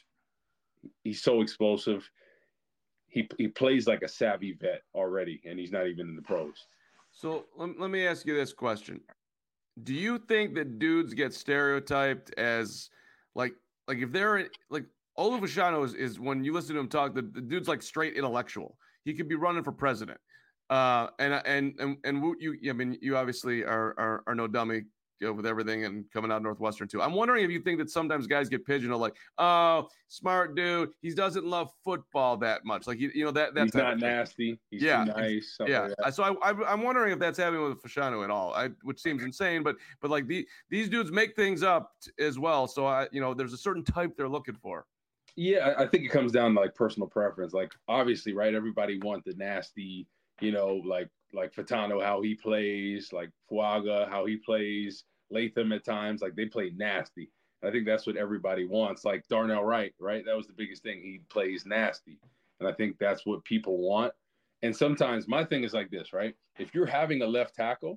so explosive. He plays like a savvy vet already, and he's not even in the pros.
So let me ask you this question: do you think that dudes get stereotyped as like if they're like Olu Fashanu is when you listen to him talk, the dude's like straight intellectual. He could be running for president. And you obviously are no dummy with everything and coming out of Northwestern too. I'm wondering if you think that sometimes guys get pigeonholed like, oh, smart dude, he doesn't love football that much. Like that
he's not nasty. He's too nice.
Yeah. Like so I'm wondering if that's happening with Fashanu at all. Which seems insane, but like these dudes make things up as well. So there's a certain type they're looking for.
Yeah, I think it comes down to like personal preference. Like obviously, right? Everybody wants the nasty. Like Fashanu, how he plays, like Fuaga, how he plays, Latham at times, like they play nasty. And I think that's what everybody wants. Like Darnell Wright, right? That was the biggest thing. He plays nasty. And I think that's what people want. And sometimes my thing is like this, right? If you're having a left tackle,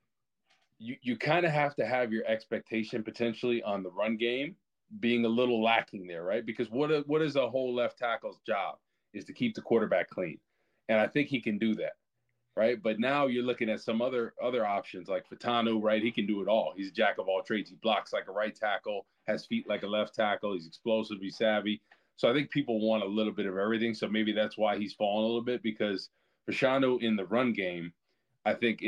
you kind of have to have your expectation potentially on the run game being a little lacking there, right? Because what is a whole left tackle's job is to keep the quarterback clean. And I think he can do that, right? But now you're looking at some other options like Fashanu, right? He can do it all. He's a jack of all trades. He blocks like a right tackle, has feet like a left tackle. He's explosive, he's savvy. So I think people want a little bit of everything. So maybe that's why he's fallen a little bit, because Fashanu in the run game, I think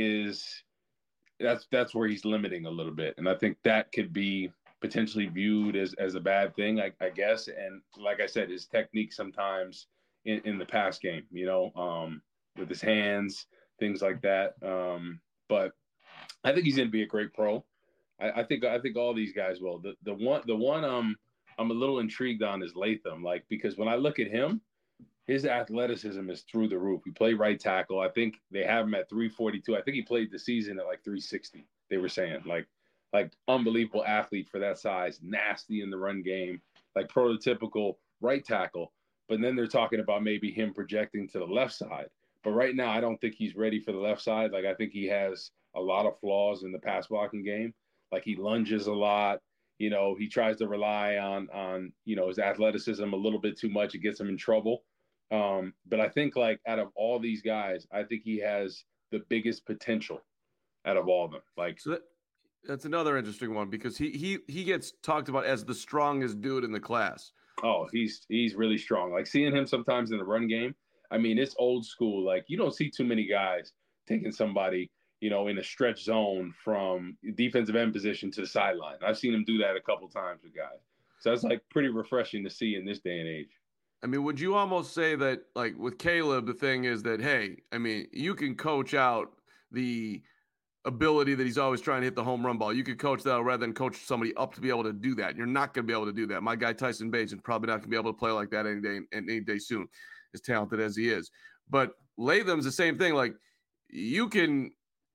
that's where he's limiting a little bit. And I think that could be potentially viewed as a bad thing, I guess. And like I said, his technique sometimes in the pass game, with his hands, things like that. But I think he's going to be a great pro. I think all these guys will. The one I'm a little intrigued on is Latham, like, because when I look at him, his athleticism is through the roof. He played right tackle. I think they have him at 342. I think he played the season at like 360. They were saying like unbelievable athlete for that size, nasty in the run game, like prototypical right tackle. But then they're talking about maybe him projecting to the left side. But right now, I don't think he's ready for the left side. Like, I think he has a lot of flaws in the pass blocking game. Like, he lunges a lot. He tries to rely on his athleticism a little bit too much. It gets him in trouble. But I think, like, out of all these guys, I think he has the biggest potential out of all of them. Like,
so that's another interesting one, because he gets talked about as the strongest dude in the class.
Oh, he's really strong. Like, seeing him sometimes in the run game, I mean, it's old school. Like, you don't see too many guys taking somebody, in a stretch zone from defensive end position to the sideline. I've seen him do that a couple times with guys. So that's like pretty refreshing to see in this day and age.
I mean, would you almost say that, like, with Caleb, the thing is that, hey, I mean, you can coach out the ability that he's always trying to hit the home run ball. You could coach that rather than coach somebody up to be able to do that. You're not going to be able to do that. My guy Tyson Bates is probably not going to be able to play like that any day soon, as talented as he is. But Latham's the same thing. Like, you can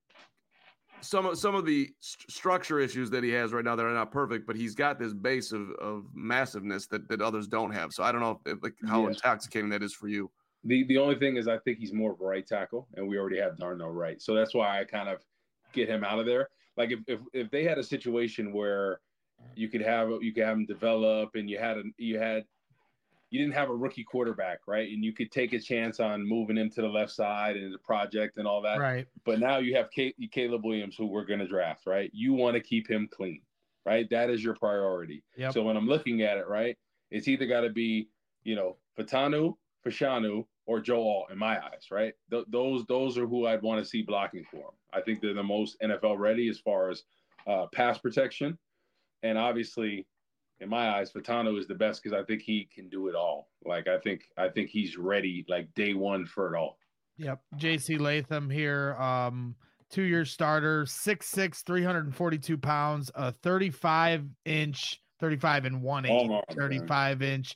some of the structure issues that he has right now that are not perfect, but he's got this base of massiveness that others don't have. So I don't know how intoxicating that is for you.
The only thing is I think he's more of a right tackle, and we already have Darnell Wright. So that's why I kind of get him out of there. Like if they had a situation where you could have him develop and you didn't have a rookie quarterback, right? And you could take a chance on moving him to the left side and the project and all that.
Right.
But now you have Caleb Williams, who we're going to draft, right? You want to keep him clean, right? That is your priority.
Yep.
So when I'm looking at it, right, it's either got to be, Fashanu, or Joe Alt in my eyes, right? Those are who I'd want to see blocking for him. I think they're the most NFL ready as far as pass protection. And obviously, in my eyes, Fashanu is the best because I think he can do it all. Like I think he's ready, like day one for it all.
Yep. JC Latham here, 2-year starter, 6'6", 342 pounds, a 35 and 1/8, 35-inch,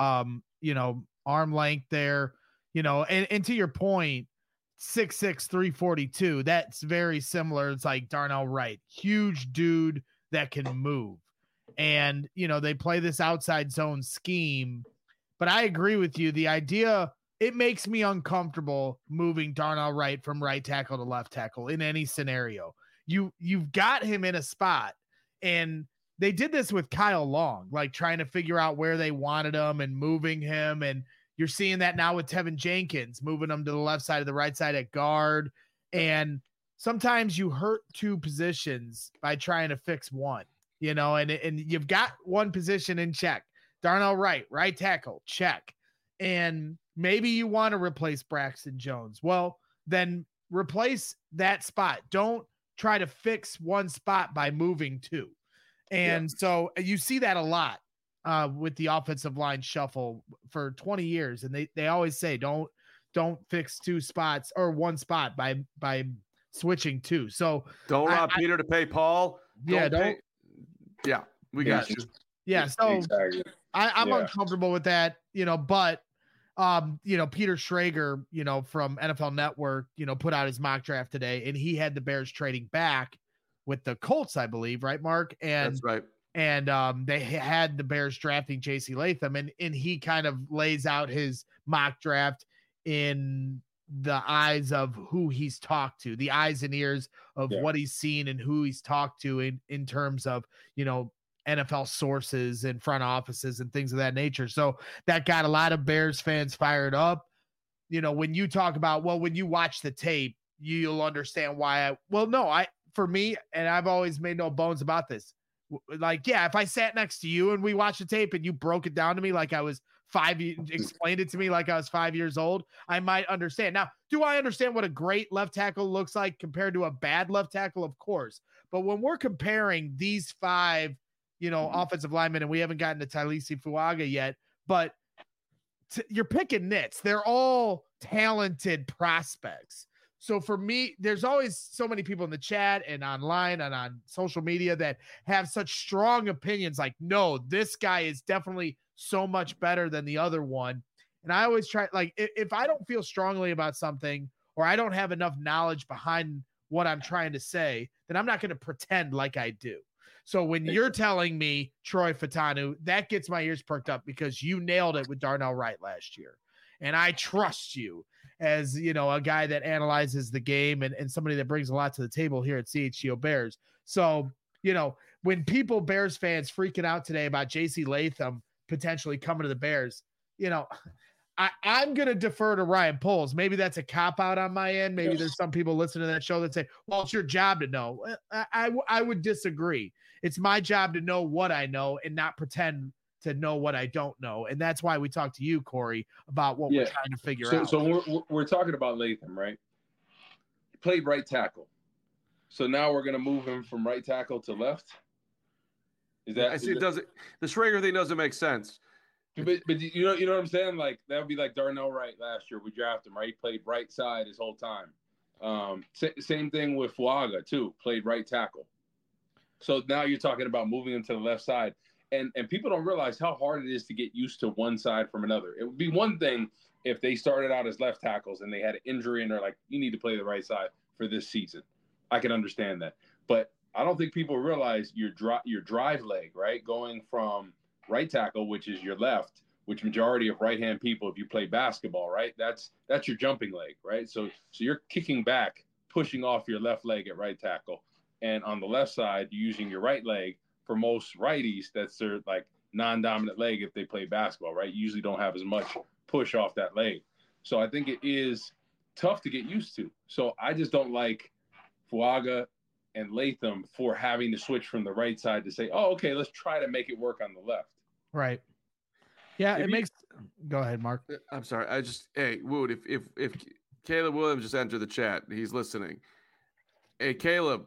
arm length there, and to your point, 6'6", 342. That's very similar. It's like Darnell Wright, huge dude that can move. And, they play this outside zone scheme, but I agree with you. The idea, it makes me uncomfortable moving Darnell Wright from right tackle to left tackle in any scenario. You've got him in a spot, and they did this with Kyle Long, like trying to figure out where they wanted him and moving him. And you're seeing that now with Tevin Jenkins, moving him to the left side of the right side at guard. And sometimes you hurt two positions by trying to fix one. And you've got one position in check. Darnell Wright, right tackle, check. And maybe you want to replace Braxton Jones. Well, then replace that spot. Don't try to fix one spot by moving two. And so you see that a lot with the offensive line shuffle for 20 years. And they always say, don't fix two spots or one spot by switching two. So
don't allow Peter to pay Paul.
Yeah,
we got you.
Yeah, so
exactly.
I'm uncomfortable with that, but Peter Schrager, from NFL Network, put out his mock draft today, and he had the Bears trading back with the Colts, I believe, right, Mark? And
that's right.
And they had the Bears drafting JC Latham, and he kind of lays out his mock draft in the eyes of who he's talked to, the eyes and ears of what he's seen and who he's talked to in terms of, NFL sources and front offices and things of that nature. So that got a lot of Bears fans fired up. When you talk about, when you watch the tape, you'll understand why for me, and I've always made no bones about this. Like, if I sat next to you and we watched the tape and you broke it down to me like I was explained it to me like I was 5 years old, I might understand. Now, do I understand what a great left tackle looks like compared to a bad left tackle? Of course. But when we're comparing these five, offensive linemen, and we haven't gotten to Talisi Fuaga yet, but you're picking nits. They're all talented prospects. So for me, there's always so many people in the chat and online and on social media that have such strong opinions. Like, no, this guy is definitely so much better than the other one. And I always try, like, if I don't feel strongly about something, or I don't have enough knowledge behind what I'm trying to say, then I'm not going to pretend like I do. So when you're telling me Troy Fautanu, that gets my ears perked up because you nailed it with Darnell Wright last year. And I trust you as, a guy that analyzes the game and somebody that brings a lot to the table here at CHGO Bears. So, when Bears fans freaking out today about JC Latham potentially coming to the Bears, I'm going to defer to Ryan Poles. Maybe that's a cop out on my end. Maybe there's some people listening to that show that say, well, it's your job to know. I would disagree. It's my job to know what I know and not pretend to know what I don't know. And that's why we talk to you, Corey, about what we're trying to figure out.
So we're talking about Latham, right? He played right tackle. So now we're going to move him from right tackle to left.
The Schrager thing doesn't make sense.
But you know what I'm saying? Like, that would be like Darnell Wright last year. We drafted him, right? He played right side his whole time. Same thing with Fuaga too. Played right tackle. So now you're talking about moving him to the left side. And people don't realize how hard it is to get used to one side from another. It would be one thing if they started out as left tackles and they had an injury and they're like, you need to play the right side for this season. I can understand that. But I don't think people realize your drive leg, right? Going from right tackle, which is your left, which majority of right-hand people, if you play basketball, right? That's your jumping leg, right? So you're kicking back, pushing off your left leg at right tackle. And on the left side, you're using your right leg. For most righties, that's their like non-dominant leg if they play basketball, right? You usually don't have as much push off that leg. So I think it is tough to get used to. So I just don't like Fuaga and Latham for having to switch from the right side to say, oh, okay, let's try to make it work on the left.
Right. Yeah, go ahead, Mark.
I'm sorry. Wood, if Caleb Williams just entered the chat, he's listening. Hey, Caleb,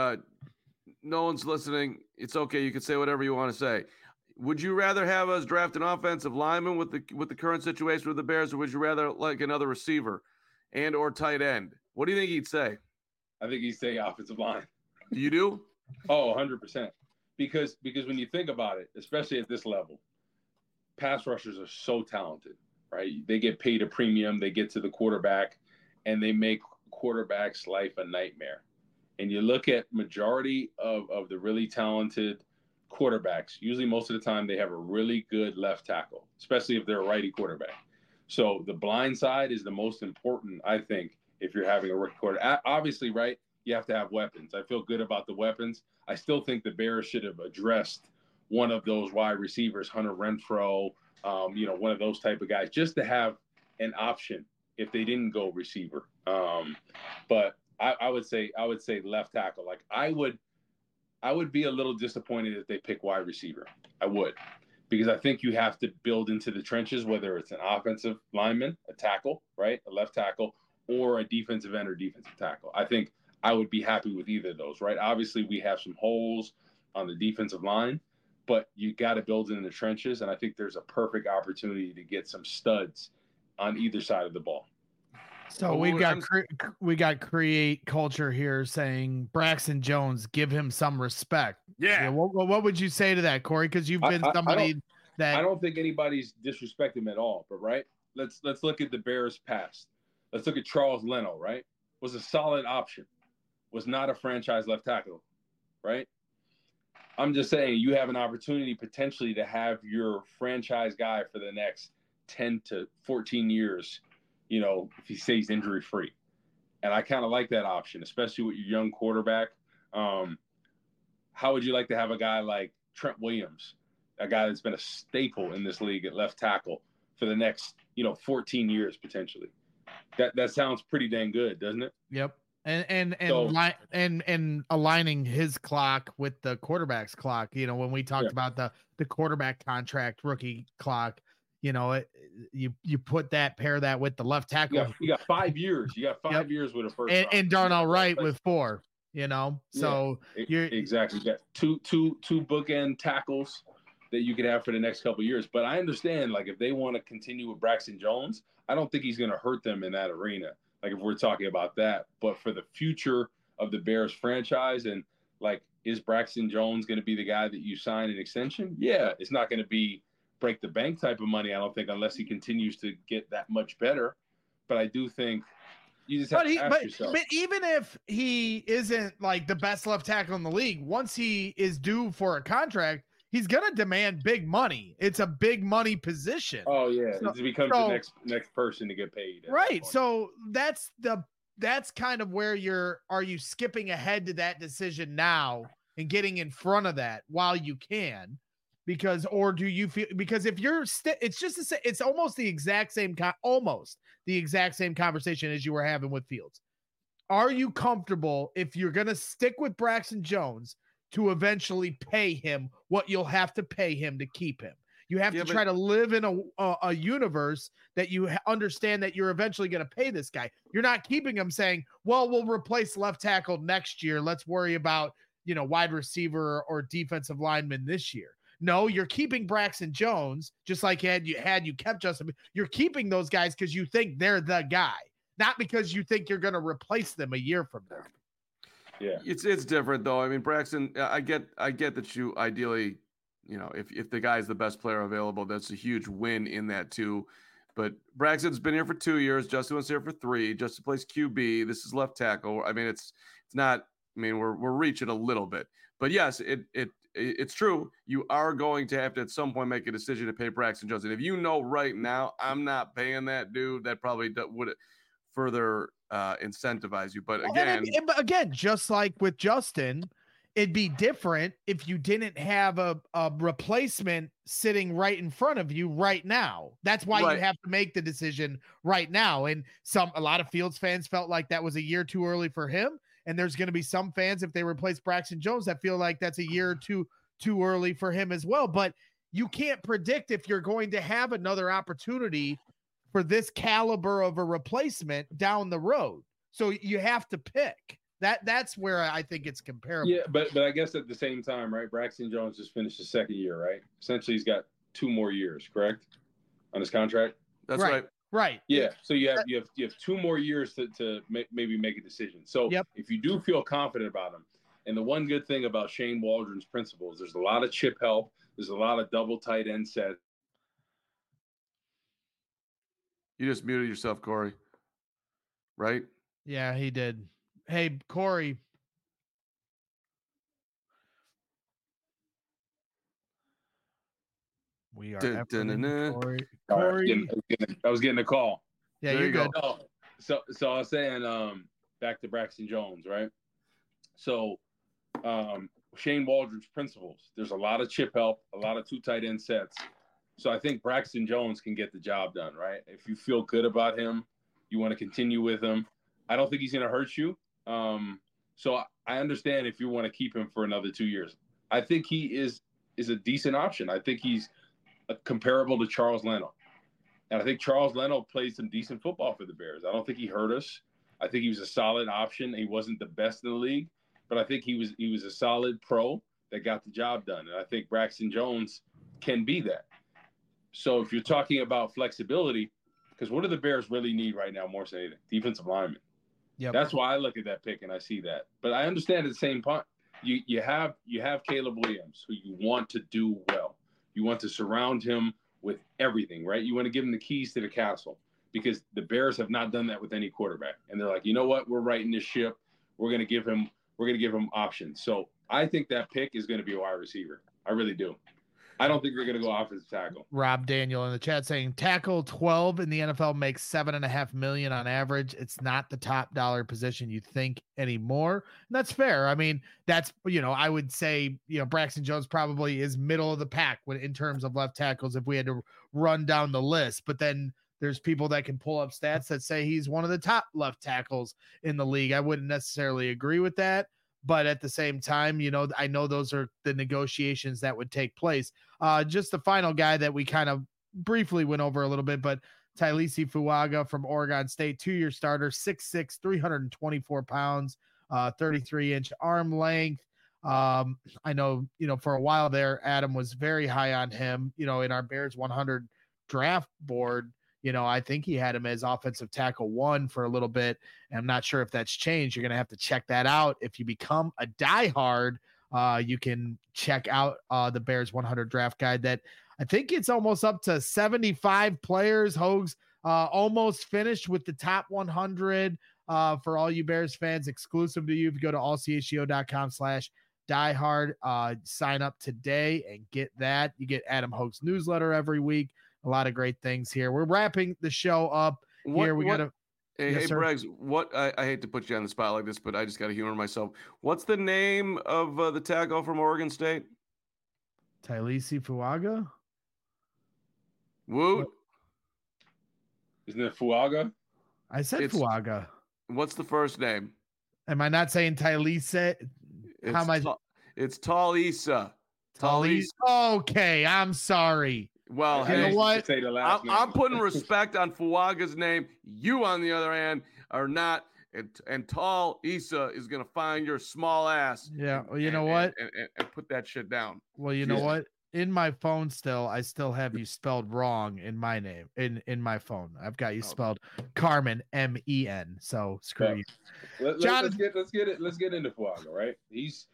no one's listening. It's okay. You can say whatever you want to say. Would you rather have us draft an offensive lineman with the current situation with the Bears, or would you rather like another receiver and or tight end? What do you think he'd say?
I think he'd say offensive line.
You do?
Oh, 100%. Because when you think about it, especially at this level, pass rushers are so talented, right? They get paid a premium. They get to the quarterback, and they make quarterback's life a nightmare. And you look at majority of the really talented quarterbacks, usually most of the time they have a really good left tackle, especially if they're a righty quarterback. So the blind side is the most important, I think, if you're having a rookie quarterback. Obviously, right, you have to have weapons. I feel good about the weapons. I still think the Bears should have addressed one of those wide receivers, Hunter Renfrow, one of those type of guys, just to have an option if they didn't go receiver. But I would say left tackle. Like I would be a little disappointed if they pick wide receiver. I would, because I think you have to build into the trenches, whether it's an offensive lineman, a tackle, right, a left tackle, or a defensive end or defensive tackle. I think I would be happy with either of those, right? Obviously, we have some holes on the defensive line, but you got to build in the trenches, and I think there's a perfect opportunity to get some studs on either side of the ball.
So we got create culture here saying Braxton Jones, give him some respect.
Yeah.
What would you say to that, Corey? Because you've been somebody that
I don't think anybody's disrespecting him at all. But right, let's look at the Bears' past. Let's look at Charles Leno. Right, was a solid option. Was not a franchise left tackle. Right. I'm just saying you have an opportunity potentially to have your franchise guy for the next 10 to 14 years. If he stays injury free. And I kind of like that option, especially with your young quarterback. How would you like to have a guy like Trent Williams, a guy that's been a staple in this league at left tackle for the next, 14 years potentially? That sounds pretty dang good, doesn't it?
Yep. And aligning his clock with the quarterback's clock, when we talked about the quarterback contract rookie clock, you pair that with the left tackle.
You got 5 years. You got 5 years with a first
and Darnell Wright with 4. So you're
exactly. You got two bookend tackles that you could have for the next couple of years. But I understand, like, if they want to continue with Braxton Jones, I don't think he's going to hurt them in that arena. Like, if we're talking about that, but for the future of the Bears franchise, and like, is Braxton Jones going to be the guy that you sign an extension? Yeah, it's not going to be break the bank type of money, I don't think, unless he continues to get that much better. But I do think you just have to ask yourself.
But even if he isn't like the best left tackle in the league, once he is due for a contract, he's gonna demand big money. It's a big money position.
Oh yeah, it becomes the next person to get paid.
Right. So that's kind of where are you skipping ahead to that decision now and getting in front of that while you can? Because if you're it's almost the exact same conversation as you were having with Fields. Are you comfortable if you're going to stick with Braxton Jones to eventually pay him what you'll have to pay him to keep him? You have to try to live in a universe that you understand that you're eventually going to pay this guy. You're not keeping him saying, well, we'll replace left tackle next year. Let's worry about, wide receiver or defensive lineman this year. No, you're keeping Braxton Jones, just like had you kept Justin. You're keeping those guys because you think they're the guy, not because you think you're going to replace them a year from now.
Yeah,
it's different though. I mean, Braxton, I get that you ideally, if the guy's the best player available, that's a huge win in that too. But Braxton's been here for 2 years. Justin was here for 3. Justin plays QB. This is left tackle. I mean, it's not. I mean, we're reaching a little bit, but yes, it's true. You are going to have to at some point make a decision to pay Braxton Jones. And if you know right now, I'm not paying that dude, that probably would further incentivize you. But
again, just like with Justin, it'd be different if you didn't have a replacement sitting right in front of you right now. That's why you have to make the decision right now. And a lot of Fields fans felt like that was a year too early for him. And there's going to be some fans, if they replace Braxton Jones, that feel like that's a year or two too early for him as well. But you can't predict if you're going to have another opportunity for this caliber of a replacement down the road. So you have to pick. That's where I think it's comparable.
Yeah, but I guess at the same time, right? Braxton Jones just finished his second year, right? Essentially, he's got 2 more years, correct, on his contract.
That's right.
Right.
Yeah. So you have 2 more years to maybe make a decision. So if you do feel confident about him, and the one good thing about Shane Waldron's principles, there's a lot of chip help. There's a lot of double tight end sets.
You just muted yourself, Corey. Right?
Yeah, he did. Hey, Corey. We are Corey.
I was getting a call.
Yeah, you're good.
So I was saying, back to Braxton Jones, right? So Shane Waldron's principles. There's a lot of chip help, a lot of 2 tight end sets. So I think Braxton Jones can get the job done, right? If you feel good about him, you want to continue with him. I don't think he's going to hurt you. So I understand if you want to keep him for another 2 years. I think he is a decent option. I think he's comparable to Charles Leno. And I think Charles Leno played some decent football for the Bears. I don't think he hurt us. I think he was a solid option. He wasn't the best in the league, but I think he was a solid pro that got the job done. And I think Braxton Jones can be that. So if you're talking about flexibility, because what do the Bears really need right now more than anything? Defensive linemen.
Yep.
That's why I look at that pick and I see that. But I understand at the same point, you have Caleb Williams, who you want to do well. You want to surround him with everything, right? You want to give him the keys to the castle, because the Bears have not done that with any quarterback. And they're like, you know what? We're righting this ship. We're going to give him options. So I think that pick is going to be a wide receiver. I really do. I don't think they're going to go offensive tackle.
Rob Daniel in the chat saying tackle 12 in the NFL makes $7.5 million on average. It's not the top dollar position you think anymore. And that's fair. I mean, that's, I would say, Braxton Jones probably is middle of the pack in terms of left tackles if we had to run down the list. But then there's people that can pull up stats that say he's one of the top left tackles in the league. I wouldn't necessarily agree with that. But at the same time, I know those are the negotiations that would take place. Just the final guy that we kind of briefly went over a little bit, but Tailisi Fuaga from Oregon State, 2-year starter, 6'6", 324 pounds, 33-inch arm length. I know, for a while there, Adam was very high on him, in our Bears 100 draft board. I think he had him as offensive tackle 1 for a little bit. And I'm not sure if that's changed. You're going to have to check that out. If you become a diehard, you can check out the Bears 100 draft guide that I think it's almost up to 75 players. Hogs almost finished with the top 100 for all you Bears fans, exclusive to you. If you go to allchgo.com/diehard, sign up today and get that. You get Adam Hogue's newsletter every week. A lot of great things here. We're wrapping the show up here. We got to.
Hey, Braggs, I hate to put you on the spot like this, but I just got to humor myself. What's the name of the tackle from Oregon State?
Tailisi Fuaga.
Woot.
Isn't it Fuaga?
I said Fuaga.
What's the first name?
Am I not saying Tailisa? How am I?
It's Talisa.
Talisa. Okay, I'm sorry.
Well,
you know what?
I'm putting respect on Fuaga's name. You, on the other hand, are not. And Tall Issa is going to find your small ass.
Yeah. Well, you know what?
And put that shit down.
Well, you know what? In my phone I still have you spelled wrong in my name. In my phone, I've got you spelled Carmen, M-E-N. So screw you.
Let's get into Fuaga, right? He's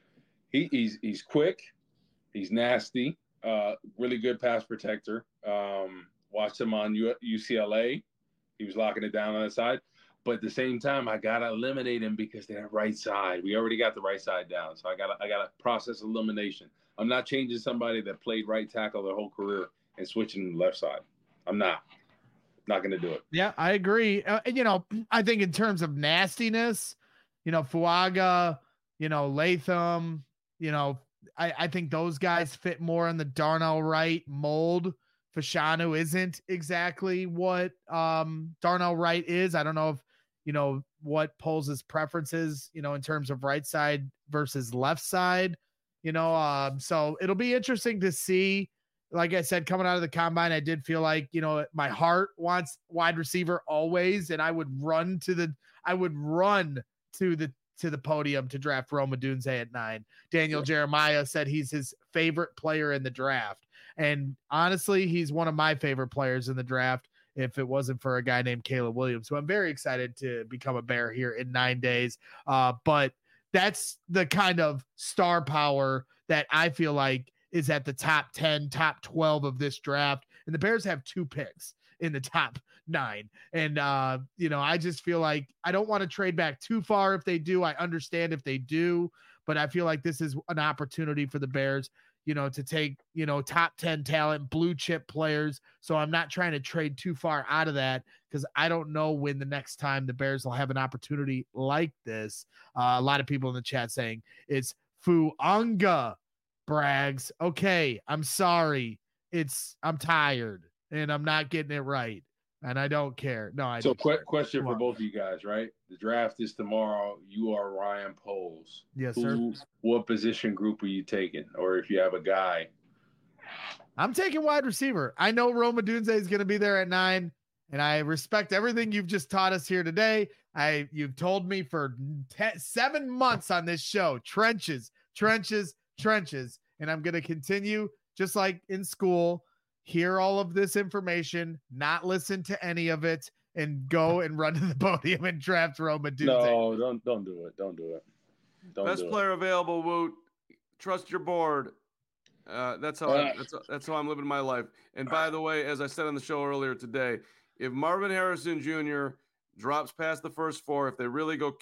quick. He's nasty. Really good pass protector. Watched him on UCLA. He was locking it down on the side. But at the same time, I gotta eliminate him because they're right side. We already got the right side down, so I gotta process elimination. I'm not changing somebody that played right tackle their whole career and switching to the left side. I'm not gonna do it.
Yeah, I agree. I think in terms of nastiness, Fuaga, Latham, I think those guys fit more in the Darnell Wright mold. Fashanu isn't exactly what Darnell Wright is. I don't know if what Poles' preferences, in terms of right side versus left side, so it'll be interesting to see. Like I said, coming out of the combine, I did feel like, my heart wants wide receiver always. And I would run to the podium to draft Rome Odunze at 9. Daniel Jeremiah said he's his favorite player in the draft. And honestly, he's one of my favorite players in the draft. If it wasn't for a guy named Caleb Williams, who I'm very excited to become a Bear here in 9 days. But that's the kind of star power that I feel like is at the top 10, top 12 of this draft. And the Bears have 2 picks in the top 9. And, I just feel like I don't want to trade back too far if they do. I understand if they do, but I feel like this is an opportunity for the Bears, to take, top 10 talent, blue chip players. So I'm not trying to trade too far out of that because I don't know when the next time the Bears will have an opportunity like this. A lot of people in the chat saying it's Fuanga. Braggs. Okay, I'm sorry. I'm tired and I'm not getting it right. And I don't care. No, I
So
don't
question for both of you guys, right? The draft is tomorrow. You are Ryan Poles.
Yes, sir.
What position group are you taking? Or if you have a guy?
I'm taking wide receiver. I know Rome Odunze is going to be there at 9, and I respect everything you've just taught us here today. You've told me for 7 months on this show, trenches, and I'm going to continue just like in school, hear all of this information, not listen to any of it, and go and run to the podium and draft Rome Odunze.
No, don't do it. Don't do it.
Best player available, Woot. Trust your board. That's how I'm living my life. And by the way, as I said on the show earlier today, if Marvin Harrison Jr. drops past the first 4, if they really go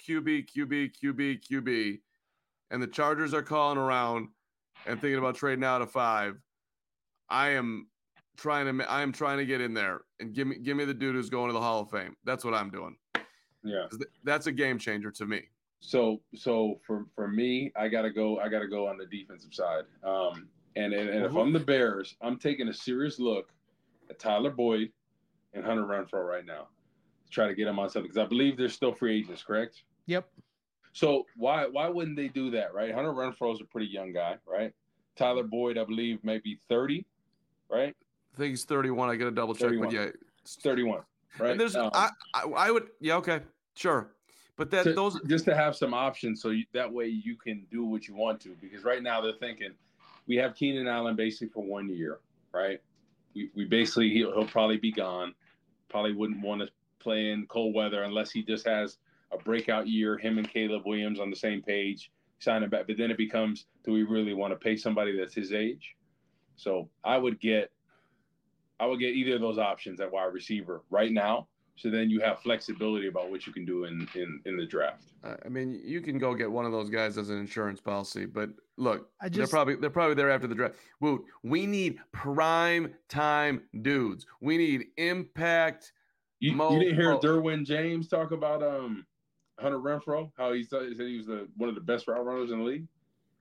QB, and the Chargers are calling around and thinking about trading out of 5, I am trying to get in there and give me the dude who's going to the Hall of Fame. That's what I'm doing.
Yeah,
that's a game changer to me.
So for me, I gotta go on the defensive side. And if I'm the Bears, I'm taking a serious look at Tyler Boyd and Hunter Renfrow right now to try to get them on something because I believe they're still free agents, correct?
Yep.
So why wouldn't they do that, right? Hunter Renfrow is a pretty young guy, right? Tyler Boyd, I believe, maybe 30, right?
I think he's 31. I got to double check,
31.
but yeah,
it's 31, right?
And there's I would, yeah, okay, sure, but those
just to have some options so that way you can do what you want to because right now they're thinking we have Keenan Allen basically for 1 year, right? We basically he'll probably be gone. Probably wouldn't want to play in cold weather unless he just has a breakout year, him and Caleb Williams on the same page, sign him back. But then it becomes, do we really want to pay somebody that's his age? So I would get either of those options at wide receiver right now. So then you have flexibility about what you can do in the draft.
I mean, you can go get one of those guys as an insurance policy, but look, they're probably there after the draft. Woot, we need prime time dudes. We need impact.
You didn't hear Derwin James talk about Hunter Renfrow, how he said he was one of the best route runners in the league?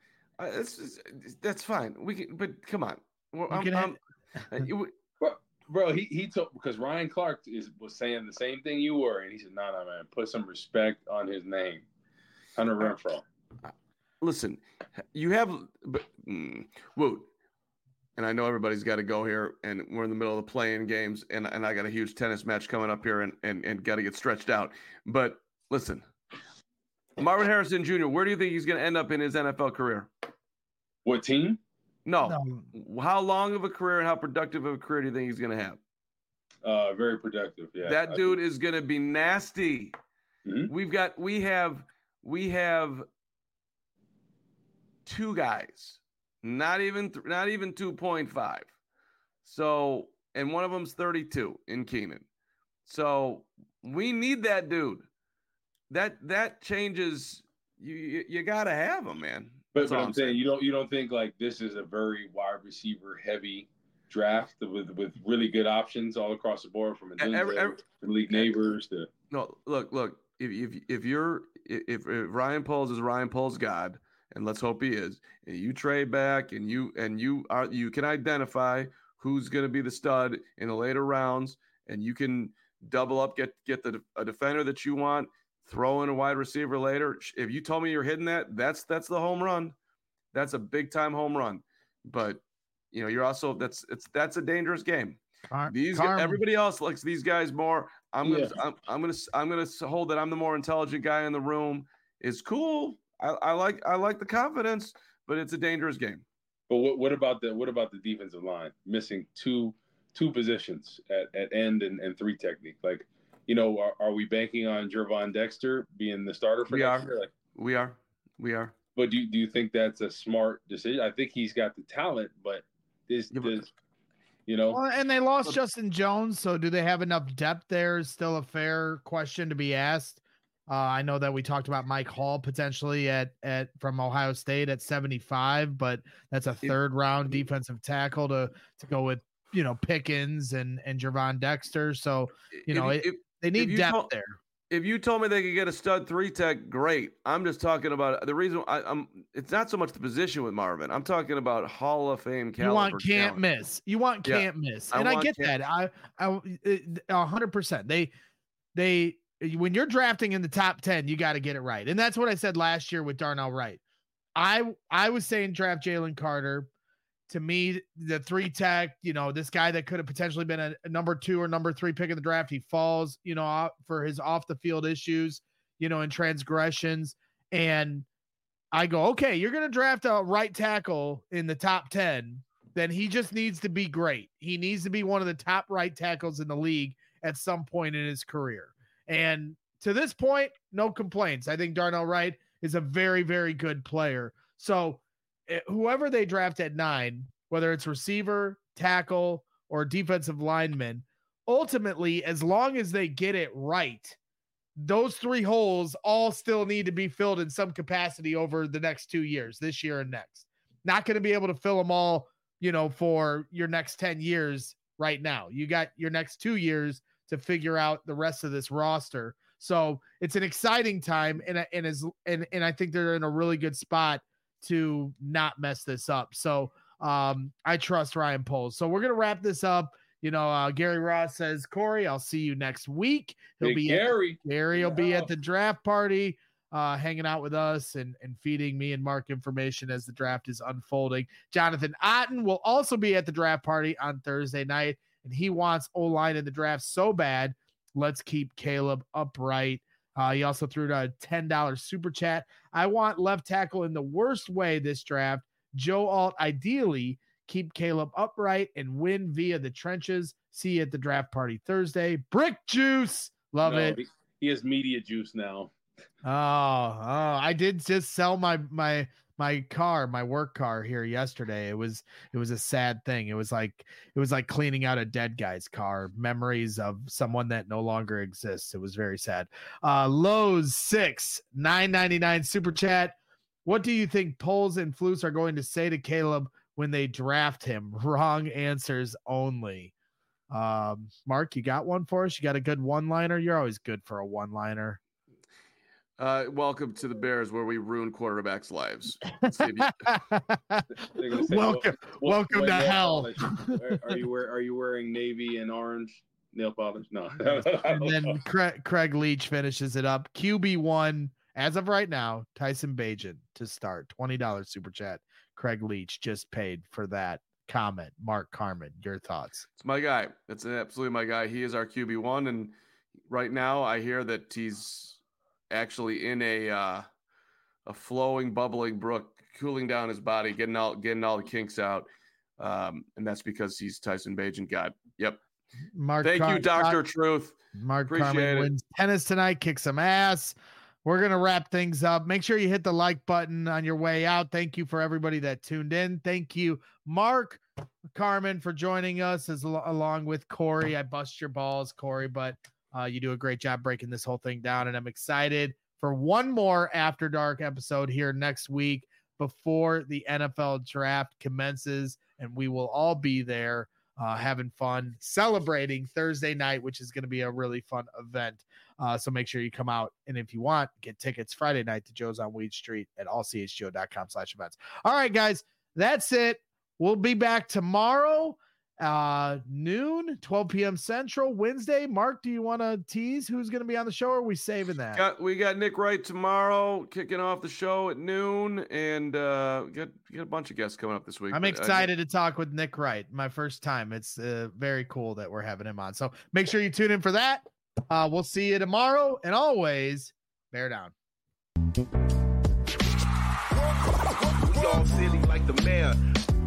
That's fine. We can, but come on.
Bro, he took because Ryan Clark was saying the same thing you were, and he said, "No, man, put some respect on his name, Hunter Renfrow."
Listen, you have Woot, and I know everybody's got to go here, and we're in the middle of the playing games, and I got a huge tennis match coming up here, and got to get stretched out. But listen, Marvin Harrison Jr., where do you think he's going to end up in his NFL career?
What team?
No. How long of a career and how productive of a career do you think he's going to have?
Very productive. Yeah.
That dude is going to be nasty.
Mm-hmm.
We have 2 guys, not even 2.5. So, and one of them's 32 in Keenan. So we need that dude. That changes. You got to have him, man.
But I'm saying you don't think like this is a very wide receiver heavy draft with really good options all across the board from Malik Neighbors to
no look if Ryan Poles is Ryan Poles God, and let's hope he is, and you trade back and you can identify who's going to be the stud in the later rounds, and you can double up, get a defender that you want, throw in a wide receiver later. If you told me you're hitting that's the home run. That's a big time home run. But you're also that's a dangerous game. Everybody else likes these guys more. I'm gonna hold that I'm the more intelligent guy in the room. It's cool. I like the confidence, but it's a dangerous game.
But what about the defensive line missing two positions at end and 3 technique? Like, are we banking on Gervon Dexter being the starter for next year? Like,
we are.
But do you think that's a smart decision? I think he's got the talent, but
Well, and they lost Justin Jones, so do they have enough depth there is still a fair question to be asked. I know that we talked about Mike Hall potentially from Ohio State at 75, but that's a third round defensive tackle to go with, Pickens and Gervon Dexter. So, they need depth there.
If you told me they could get a stud 3 tech, great. I'm just talking about the reason it's not so much the position with Marvin. I'm talking about Hall of Fame caliber.
You want can't miss. You want can't miss. And I get that. I 100%. They when you're drafting in the top 10, you got to get it right. And that's what I said last year with Darnell Wright. I was saying draft Jalen Carter. To me, the 3 tech, this guy that could have potentially been a number 2 or number 3 pick in the draft, he falls, for his off the field issues, and transgressions. And I go, okay, you're going to draft a right tackle in the top 10. Then he just needs to be great. He needs to be one of the top right tackles in the league at some point in his career. And to this point, no complaints. I think Darnell Wright is a very, very good player. So whoever they draft at 9, whether it's receiver, tackle, or defensive lineman, ultimately, as long as they get it right, those 3 holes all still need to be filled in some capacity over the next 2 years, this year and next. Not going to be able to fill them all, for your next 10 years right now. You got your next 2 years to figure out the rest of this roster. So it's an exciting time, and I think they're in a really good spot to not mess this up. So I trust Ryan Poles. So we're going to wrap this up. Gary Ross says, Corey, I'll see you next week. Gary will be at the draft party, hanging out with us and feeding me and Mark information as the draft is unfolding. Jonathan Otten will also be at the draft party on Thursday night, and he wants O-line in the draft so bad. Let's keep Caleb upright. He also threw a $10 super chat. I want left tackle in the worst way this draft. Joe Alt, ideally, keep Caleb upright and win via the trenches. See you at the draft party Thursday. Brick juice. Love it.
He has media juice now.
Oh, I did just sell my car, my work car here yesterday. It was a sad thing. It was like cleaning out a dead guy's car, memories of someone that no longer exists. It was very sad. Lowe's 6 $9.99 super chat. What do you think Poles and Flus are going to say to Caleb when they draft him? Wrong answers only. Mark, you got one for us? You got a good one-liner? You're always good for a one-liner.
Welcome to the Bears, where we ruin quarterbacks' lives.
Welcome to hell.
Are you wearing navy and orange nail polish? No.
And then Craig Leach finishes it up. QB1 as of right now. Tyson Bagent to start. $20 super chat. Craig Leach just paid for that comment. Mark Carman, your thoughts?
It's my guy. That's absolutely my guy. He is our QB1, and right now I hear that he's actually in a flowing, bubbling brook, cooling down his body, getting all the kinks out, and that's because he's Tyson Bagent. God, yep. Thank you, Dr. Truth.
Mark Carman wins tennis tonight. Kick some ass. we're going to wrap things up. Make sure you hit the like button on your way out. Thank you for everybody that tuned in. Thank you, Mark Carman, for joining us along with Corey. I bust your balls, Corey, but you do a great job breaking this whole thing down. And I'm excited for one more After Dark episode here next week before the NFL draft commences. And we will all be there having fun, celebrating Thursday night, which is going to be a really fun event. So make sure you come out. And if you want, get tickets Friday night to Joe's on Weed Street at allchgo.com/events. All right, guys, that's it. We'll be back tomorrow, noon, 12 p.m. Central, Wednesday. Mark, do you want to tease who's going to be on the show, or are we saving that?
We got Nick Wright tomorrow kicking off the show at noon, and got a bunch of guests coming up this week.
I'm excited to talk with Nick Wright. My first time. It's very cool that we're having him on. So make sure you tune in for that. We'll see you tomorrow, and always bear down.
We all silly like the mayor.